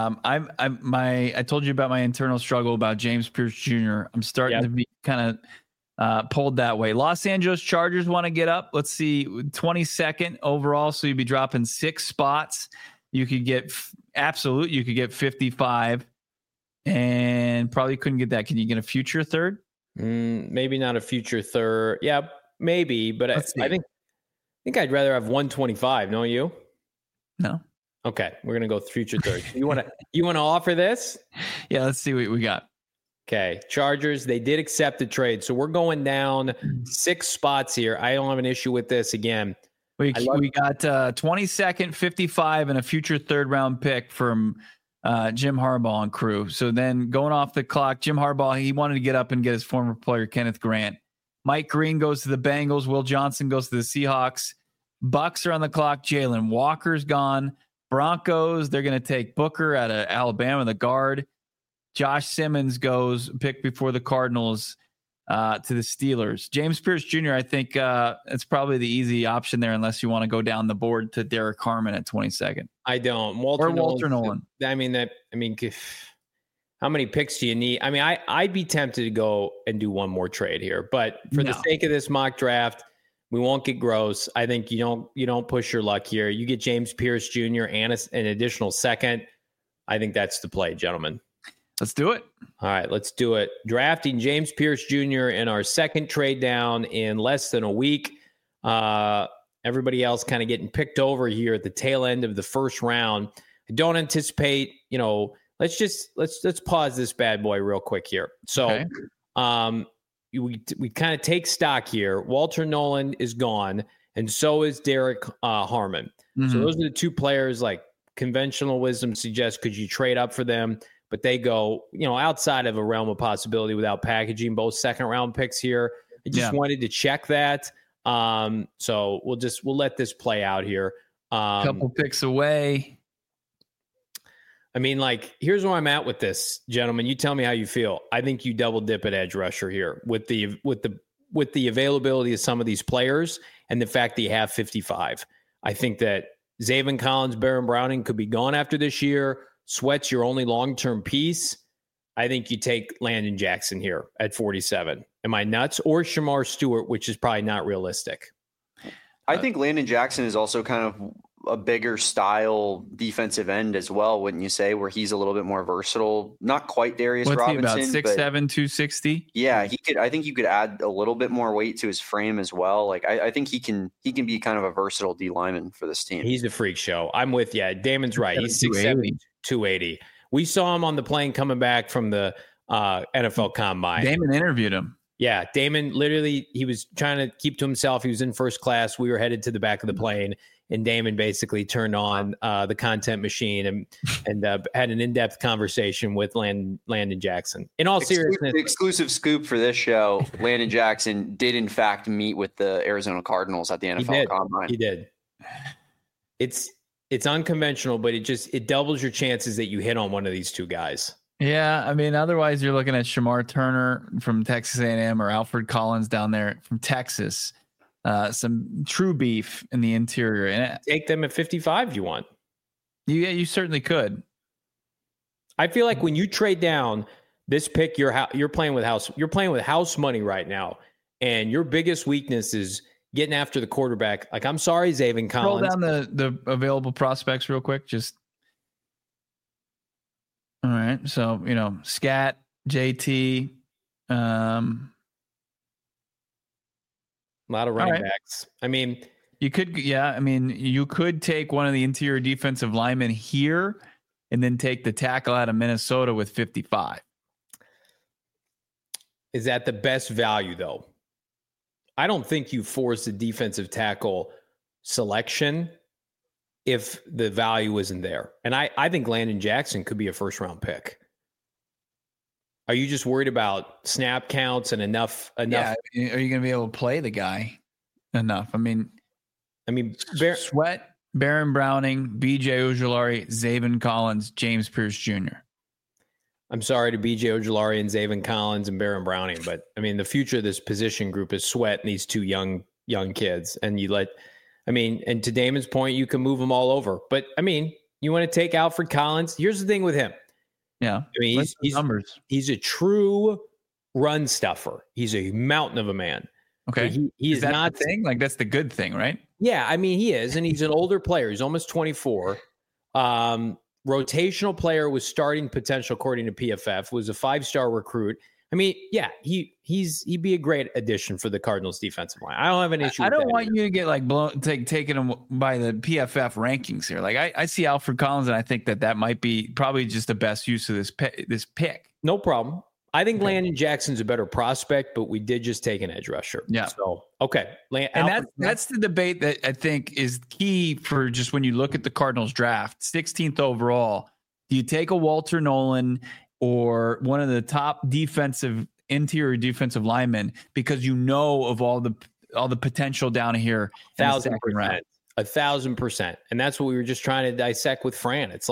I told you about my internal struggle about James Pierce Jr. I'm starting to be kind of pulled that way. Los Angeles Chargers want to get up. Let's see, 22nd overall. So you'd be dropping 6 spots. You could get 55 and probably couldn't get that. Can you get a future third? Maybe not a future third. Yeah, maybe. But I think I'd rather have 125. Don't you? No. Okay, we're gonna go future third. You want to offer this? Yeah, let's see what we got. Okay, Chargers. They did accept the trade, so we're going down 6 spots here. I don't have an issue with this. Again, we got 22nd, 55, and a future third round pick from Jim Harbaugh and crew. So then going off the clock, Jim Harbaugh, he wanted to get up and get his former player Kenneth Grant. Mike Green goes to the Bengals. Will Johnson goes to the Seahawks. Bucks are on the clock. Jalen Walker's gone. Broncos, they're going to take Booker out of Alabama, the guard. Josh Simmons goes pick before the Cardinals to the Steelers. James Pierce Jr., I think it's probably the easy option there unless you want to go down the board to Derek Harmon at 22nd. I don't. Walter Nolan. I mean, how many picks do you need? I mean, I'd be tempted to go and do one more trade here, but for the sake of this mock draft, we won't get gross. I think you don't push your luck here. You get James Pierce Jr. and an additional second. I think that's the play, gentlemen. Let's do it. All right, let's do it. Drafting James Pierce Jr. in our second trade down in less than a week. Everybody else kind of getting picked over here at the tail end of the first round. I don't anticipate, let's pause this bad boy real quick here. So okay. We kind of take stock here. Walter Nolan is gone, and so is Derek Harmon. Mm-hmm. So those are the two players, like conventional wisdom suggests, could you trade up for them? But they go, outside of a realm of possibility without packaging both second round picks here. I just wanted to check that. So we'll let this play out here. Couple picks away. I mean, here's where I'm at with this, gentlemen. You tell me how you feel. I think you double dip at edge rusher here with the availability of some of these players and the fact that you have 55. I think that Zaven Collins, Baron Browning could be gone after this year. Sweat's your only long-term piece. I think you take Landon Jackson here at 47. Am I nuts? Or Shamar Stewart, which is probably not realistic. I think Landon Jackson is also kind of a bigger style defensive end as well, wouldn't you say, where he's a little bit more versatile? Not quite Darius Robinson. What's he about, 6'7", 260? Yeah, he could. I think you could add a little bit more weight to his frame as well. I think he can be kind of a versatile D lineman for this team. He's a freak show. I'm with you. Damon's right. He's 6'7", 280. We saw him on the plane coming back from the NFL Combine. Damon interviewed him. Yeah, Damon literally, he was trying to keep to himself. He was in first class. We were headed to the back of the plane, and Damon basically turned on the content machine and had an in-depth conversation with Landon Jackson. In all seriousness, exclusive scoop for this show: Landon Jackson did in fact meet with the Arizona Cardinals at the NFL Combine. He did. It's unconventional, but it doubles your chances that you hit on one of these two guys. Yeah, I mean, otherwise you're looking at Shamar Turner from Texas A&M or Alfred Collins down there from Texas. Some true beef in the interior. And take them at 55 if you want. Yeah, you certainly could. I feel like when you trade down this pick, you're playing with house money right now, and your biggest weakness is getting after the quarterback. I'm sorry, Zaven Collins. Roll down the available prospects real quick. Just all right. So Scat, JT, a lot of running backs. I mean, you could take one of the interior defensive linemen here and then take the tackle out of Minnesota with 55. Is that the best value, though? I don't think you force the defensive tackle selection if the value isn't there. And I think Landon Jackson could be a first-round pick. Are you just worried about snap counts and enough? Yeah, are you going to be able to play the guy enough? I mean, Sweat, Baron Browning, B.J. Ojulari, Zaven Collins, James Pierce Jr. I'm sorry to B.J. Ojulari and Zaven Collins and Baron Browning, but I mean, the future of this position group is Sweat and these two young kids. And and to Damon's point, you can move them all over. But I mean, you want to take Alfred Collins. Here's the thing with him. Yeah. I mean, he's a true run stuffer. He's a mountain of a man. Okay. He is not the thing. That's the good thing, right? Yeah. I mean, he is, and he's an older player. He's almost 24. Rotational player with starting potential, according to PFF, was a 5-star recruit. I mean, yeah, he'd be a great addition for the Cardinals defensive line. I don't have an issue. I don't want you to get taken him by the PFF rankings here. I see Alfred Collins, and I think that might be probably just the best use of this pick. No problem. I think Landon Jackson's a better prospect, but we did just take an edge rusher. Yeah. So, okay. And that's the debate that I think is key for just when you look at the Cardinals draft, 16th overall. Do you take a Walter Nolan or one of the top interior defensive linemen because of all the potential down here? 1,000%. 1,000%. And that's what we were just trying to dissect with Fran. It's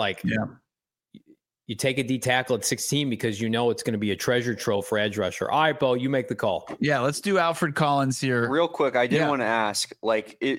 you take a D tackle at 16 because it's going to be a treasure trove for edge rusher. All right, Bo, you make the call. Yeah, let's do Alfred Collins here. Real quick, I did want to ask, you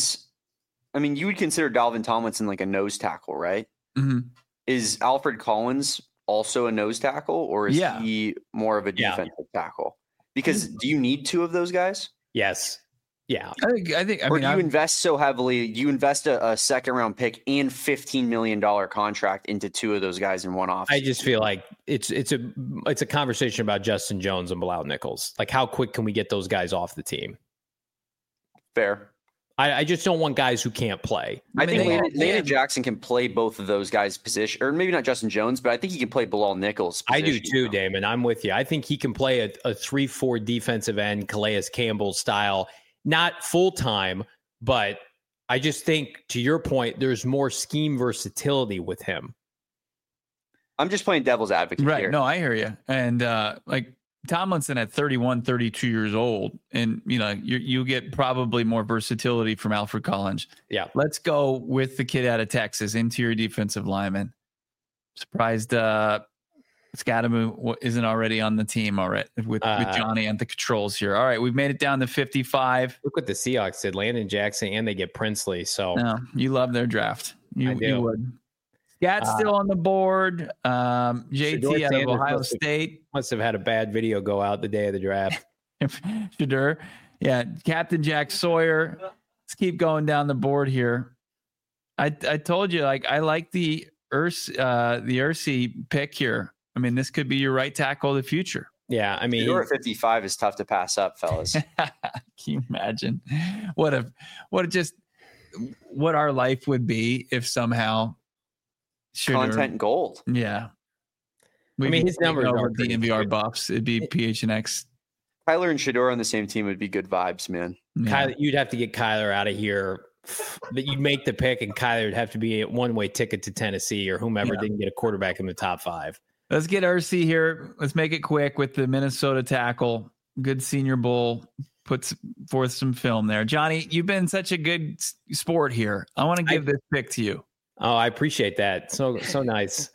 would consider Dalvin Tomlinson like a nose tackle, right? Mm-hmm. Is Alfred Collins also a nose tackle, or is he more of a defensive tackle? Because do you need two of those guys? Yes. Yeah. You invest so heavily, you invest a second round pick and $15 million contract into two of those guys in one off. I just feel like it's a conversation about Justin Jones and Bilal Nichols. Like, how quick can we get those guys off the team? Fair. I just don't want guys who can't play. I think Landon Jackson can play both of those guys' position, or maybe not Justin Jones, but I think he can play Bilal Nichols' position. I do too, Damon. I'm with you. I think he can play a 3-4 defensive end, Calais Campbell style, not full time, but I just think, to your point, there's more scheme versatility with him. I'm just playing devil's advocate right here. No, I hear you. And Tomlinson at 31, 32 years old, and you get probably more versatility from Alfred Collins. Yeah. Let's go with the kid out of Texas, interior defensive lineman. Surprised Scadamu isn't already on the team already with Johnny and the controls here. All right, we've made it down to 55. Look what the Seahawks did. Landon Jackson, and they get Princely. So no, you love their draft. You would. Scat's still on the board. JT out of Ohio State. Must have had a bad video go out the day of the draft. Shedeur. Yeah. Captain Jack Sawyer. Let's keep going down the board here. I told you, I like the Ursi pick here. I mean, this could be your right tackle of the future. Yeah. I mean, Shedeur at 55 is tough to pass up, fellas. Can you imagine what our life would be if somehow content gold. Yeah. His numbers are DNVR buffs. It'd be PHNX. Kyler and Shedeur on the same team would be good vibes, man. Yeah. Kyler, you'd have to get Kyler out of here. That you'd make the pick, and Kyler would have to be a one-way ticket to Tennessee or whomever didn't get a quarterback in the top 5. Let's get Ursi here. Let's make it quick with the Minnesota tackle. Good Senior Bowl. Puts forth some film there. Johnny, you've been such a good sport here. I want to give this pick to you. Oh, I appreciate that. So nice.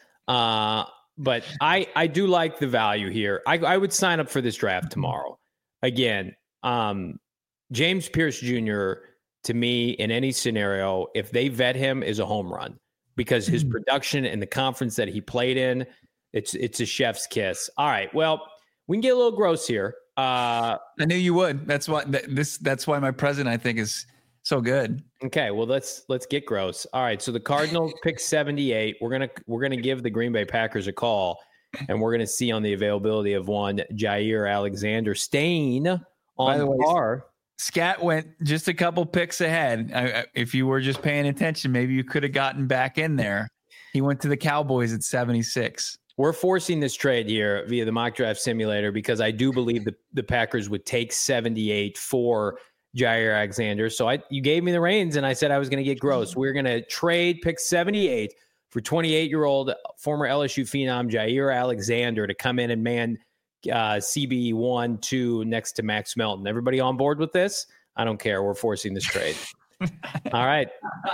But I do like the value here. I would sign up for this draft tomorrow. Again, James Pierce Jr., to me, in any scenario, if they vet him, is a home run because his production and the conference that he played in, it's a chef's kiss. All right. Well, we can get a little gross here. I knew you would. That's why my present, I think, is so good. Okay, well let's get gross. All right, so the Cardinals pick 78. We're gonna give the Green Bay Packers a call, and we're gonna see on the availability of one Jair Alexander staying on the bar. Scat went just a couple picks ahead. If you were just paying attention, maybe you could have gotten back in there. He went to the Cowboys at 76. We're forcing this trade here via the mock draft simulator because I do believe the Packers would take 78 for Jair Alexander. So you gave me the reins and I said I was going to get gross. We're going to trade pick 78 for 28-year-old former LSU phenom Jair Alexander to come in and man CB 1-2 next to Max Melton. Everybody on board with this? I don't care. We're forcing this trade. All right.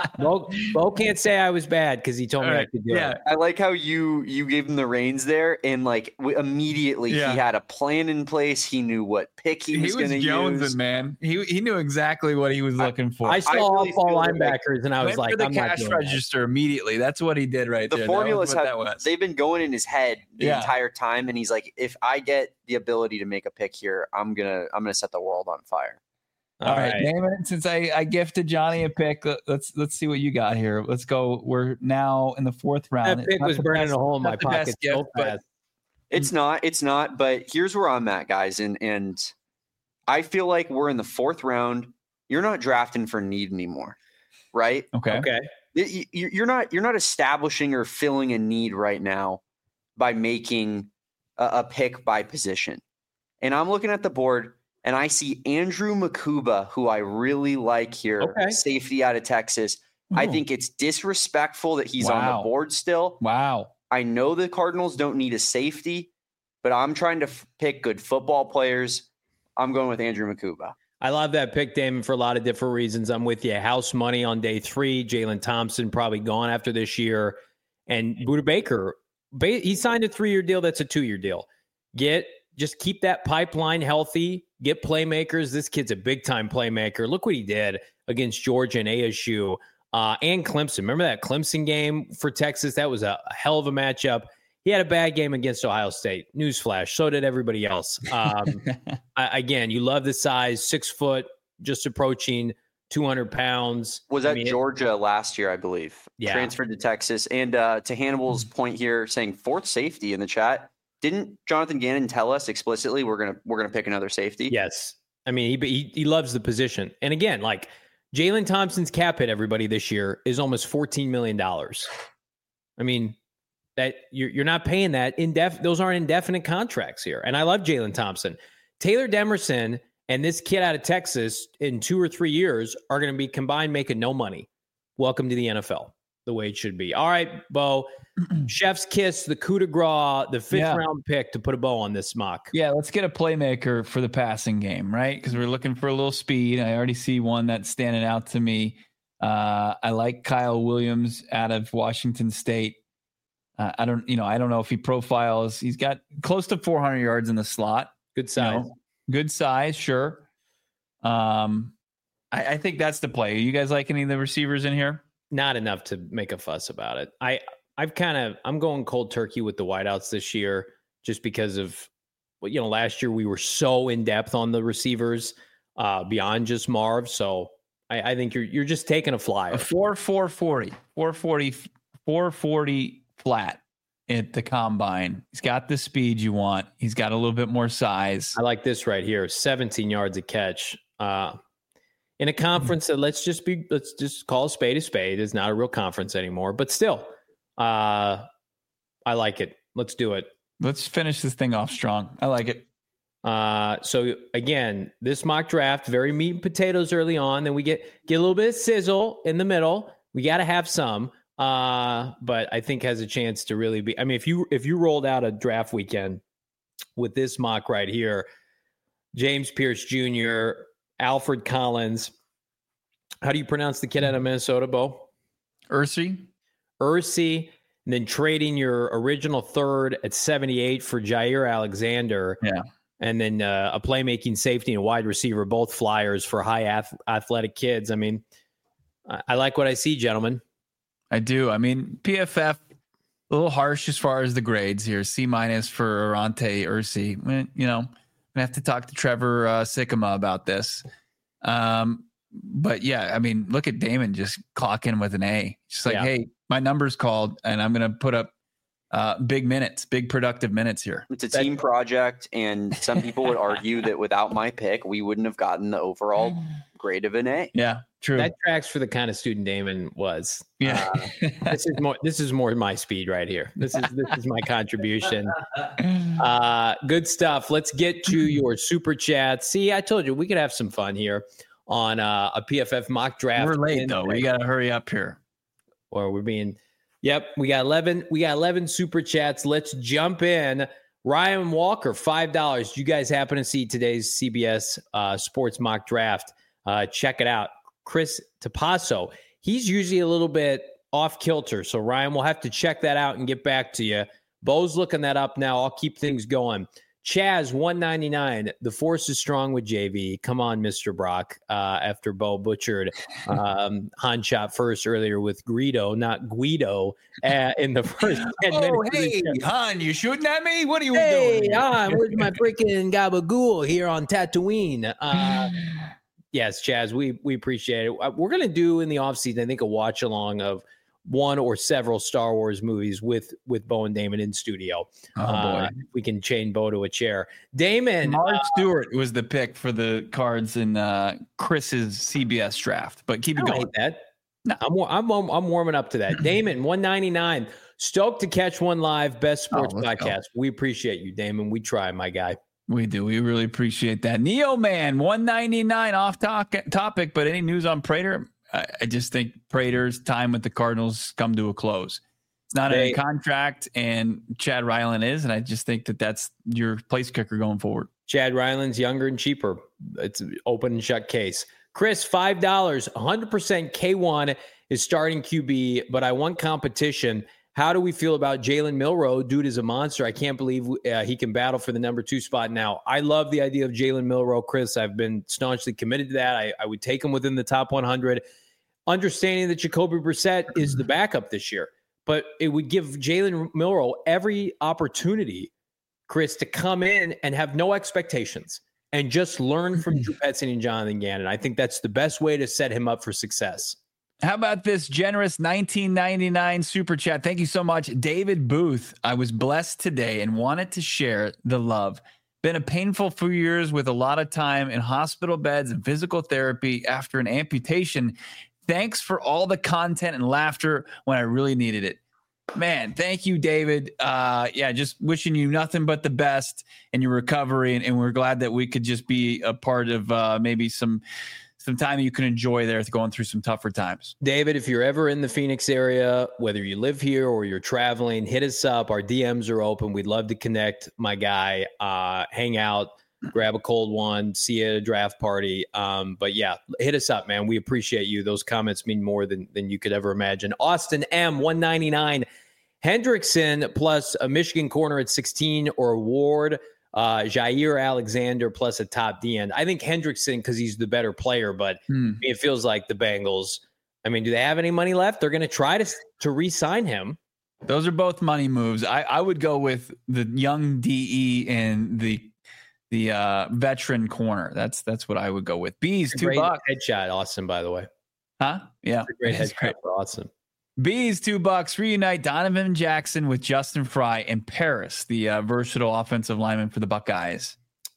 Bo can't say I was bad because he told me I could do it. I like how you gave him the reins there, and immediately he had a plan in place. He knew what pick he was going to use. Jonesing, man. He knew exactly what he was looking for. I saw all linebackers, and I was like, I'm cash register immediately. That's what he did right there. The formulas they've been going in his head the entire time, and he's like, if I get the ability to make a pick here, I'm gonna set the world on fire. All right, Damon, since I gifted Johnny a pick, let's see what you got here. Let's go. We're now in the 4th round. That pick was burning a hole in my pocket so fast. It's not, but here's where I'm at, guys. And I feel like we're in the 4th round. You're not drafting for need anymore, right? Okay. You're not establishing or filling a need right now by making a pick by position. And I'm looking at the board, and I see Andrew Makuba, who I really like here, safety out of Texas. Ooh. I think it's disrespectful that he's on the board still. Wow. I know the Cardinals don't need a safety, but I'm trying to pick good football players. I'm going with Andrew Makuba. I love that pick, Damon, for a lot of different reasons. I'm with you. House money on day 3. Jalen Thompson probably gone after this year. And Budda Baker, he signed a 3-year deal. That's a 2-year deal. Just keep that pipeline healthy. Get playmakers. This kid's a big-time playmaker. Look what he did against Georgia and ASU and Clemson. Remember that Clemson game for Texas? That was a hell of a matchup. He had a bad game against Ohio State. Newsflash. So did everybody else. Again, you love the size, 6 foot, just approaching 200 pounds. Was at Georgia last year, I believe. Yeah. Transferred to Texas. And to Hannibal's point here, saying fourth safety in the chat, didn't Jonathan Gannon tell us explicitly we're gonna pick another safety? Yes. I mean, he loves the position. And again, like Jalen Thompson's cap hit, everybody, this year is almost $14 million. I mean, that you're not paying that those aren't indefinite contracts here. And I love Jalen Thompson. Taylor Demerson and this kid out of Texas in 2 or 3 years are going to be combined making no money. Welcome to the NFL, the way it should be. All right, Bo, chef's kiss, the coup de grace, the fifth round pick to put a bow on this mock. Yeah, let's get a playmaker for the passing game, right? Because we're looking for a little speed. I already see one that's standing out to me. I like Kyle Williams out of Washington State. I don't know if he profiles. He's got close to 400 yards in the slot. Good size. Good size, sure. I think that's the play. You guys like any of the receivers in here? Not enough to make a fuss about it. I'm going cold turkey with the wideouts this year just because of, last year we were so in depth on the receivers beyond just Marv. So I think you're just taking a flyer. A 440 flat at the combine. He's got the speed you want. He's got a little bit more size. I like this right here. 17 yards a catch. In a conference that let's just call a spade a spade. It's not a real conference anymore, but still, I like it. Let's do it. Let's finish this thing off strong. I like it. So again, this mock draft, very meat and potatoes early on. Then we get a little bit of sizzle in the middle. We got to have some. But I think has a chance to really be. I mean, if you rolled out a draft weekend with this mock right here, James Pierce Jr., Alfred Collins. How do you pronounce the kid out of Minnesota, Bo? Ursi, and then trading your original third at 78 for Jair Alexander. Yeah. And then a playmaking safety and a wide receiver, both flyers for high athletic kids. I mean, I like what I see, gentlemen. I do. I mean, PFF, a little harsh as far as the grades here. C- for Arante Ursi. I'm going to have to talk to Trevor Sikkema about this. But yeah, I mean, look at Damon just clocking with an A. Just like, hey, my number's called and I'm going to put up big productive minutes here. It's a team project. And some people would argue that without my pick, we wouldn't have gotten the overall grade of an A. Yeah, true. That tracks for the kind of student Damon was. Yeah. This is more my speed right here. This is my contribution. Good stuff. Let's get to your super chat. See, I told you we could have some fun here on a PFF mock draft. We're late though. We got to hurry up here. Or we're being. Yep, we got 11 super chats. Let's jump in. Ryan Walker, $5. You guys happen to see today's CBS Sports mock draft? Check it out. Chris Tapasso, he's usually a little bit off kilter. So Ryan, we'll have to check that out and get back to you. Bo's looking that up now. I'll keep things going. Chaz, $1.99. The force is strong with JV. Come on, Mr. Brock. After Bo butchered Han shot first earlier with Guido, not Guido, in the first 10 minutes. Oh, hey, Han, you shooting at me? What are you doing? Hey, Han, where's my freaking gabagool here on Tatooine? Yes, Chaz, we appreciate it. We're going to do in the offseason, I think, a watch along of one or several Star Wars movies with Bo and Damon in studio. Oh, boy. We can chain Bo to a chair. Damon. Mark Stewart was the pick for the Cards in Chris's CBS draft, but keep it going. Hate that. No, I'm warming up to that. Damon, $1.99. Stoked to catch one live. Best sports podcast. Go. We appreciate you, Damon. We try, my guy. We do. We really appreciate that. Neo Man, $1.99 off topic, but any news on Prater? I just think Prater's time with the Cardinals come to a close. It's not a contract, and Chad Ryland is, and I just think that's your place kicker going forward. Chad Ryland's younger and cheaper. It's an open and shut case. Chris, $5, 100% K1 is starting QB, but I want competition. How do we feel about Jalen Milroe? Dude is a monster. I can't believe he can battle for the number 2 spot now. I love the idea of Jalen Milroe, Chris. I've been staunchly committed to that. I would take him within the top 100. Understanding that Jacoby Brissett is the backup this year. But it would give Jalen Milroe every opportunity, Chris, to come in and have no expectations. and just learn from Drew Petzing and Jonathan Gannon. I think that's the best way to set him up for success. How about this generous 1999 super chat? Thank you so much, David Booth. I was blessed today and wanted to share the love. Been a painful few years with a lot of time in hospital beds and physical therapy after an amputation. Thanks for all the content and laughter when I really needed it. Man, thank you, David. Just wishing you nothing but the best in your recovery. And we're glad that we could just be a part of maybe some time you can enjoy there going through some tougher times. David, if you're ever in the Phoenix area, whether you live here or you're traveling, hit us up. Our DMs are open. We'd love to connect, my guy, hang out, grab a cold one, see you at a draft party. But yeah, hit us up, man. We appreciate you. Those comments mean more than you could ever imagine. Austin M, 199. Hendrickson plus a Michigan corner at 16 or Ward, Jair Alexander plus a top D end. I think Hendrickson because he's the better player, but it feels like the Bengals. I mean, do they have any money left? They're going to try to re-sign him. Those are both money moves. I would go with the young DE and the veteran corner. That's what I would go with. Bees, $2. Headshot, Austin, by the way. Huh? Yeah. That's a great headshot for Austin. Bees, $2. Reunite Donovan Jackson with Justin Fry and Paris, the versatile offensive lineman for the Buckeyes.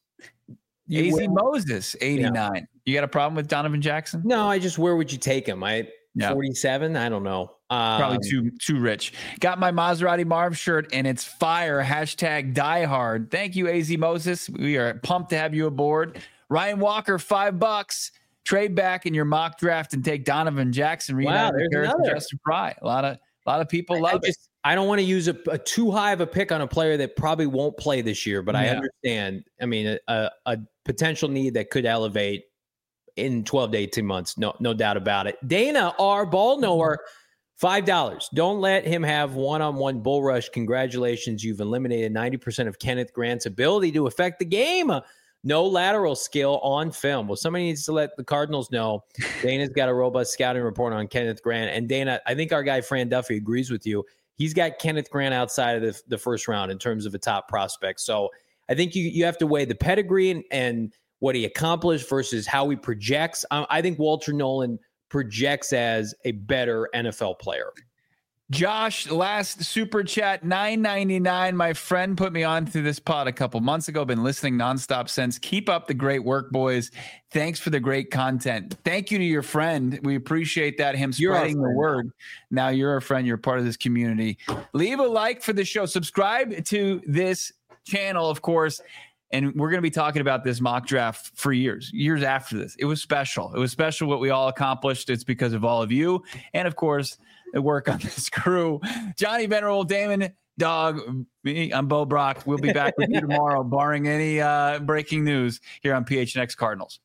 AZ Moses, 89. Yeah. You got a problem with Donovan Jackson? No, where would you take him? 47? I don't know. Probably too rich. Got my Maserati Marv shirt and it's fire. #diehard. Thank you, AZ Moses. We are pumped to have you aboard. Ryan Walker, $5. Trade back in your mock draft and take Donovan Jackson. Wow, there's another. Justin Fry. A lot of people love it. I don't want to use a too high of a pick on a player that probably won't play this year, but I understand. I mean, a potential need that could elevate in 12 to 18 months. No doubt about it. Dana R. Ball Knower, $5. Don't let him have one-on-one bull rush. Congratulations. You've eliminated 90% of Kenneth Grant's ability to affect the game. No lateral skill on film. Well, somebody needs to let the Cardinals know. Dana's got a robust scouting report on Kenneth Grant. And Dana, I think our guy Fran Duffy agrees with you. He's got Kenneth Grant outside of the first round in terms of a top prospect. So I think you have to weigh the pedigree and what he accomplished versus how he projects. I think Walter Nolan projects as a better NFL player. Josh, last super chat, $9.99. My friend put me on to this pod a couple months ago. Been listening nonstop since. Keep up the great work, boys. Thanks for the great content. Thank you to your friend. We appreciate that. Him spreading the word. Now you're a friend. You're part of this community. Leave a like for the show. Subscribe to this channel, of course. And we're going to be talking about this mock draft for years after this. It was special. It was special what we all accomplished. It's because of all of you. And, of course, the work on this crew. Johnny Venerable, Damon, Dog, me, I'm Bo Brock. We'll be back with you tomorrow, barring any breaking news here on PHNX Cardinals.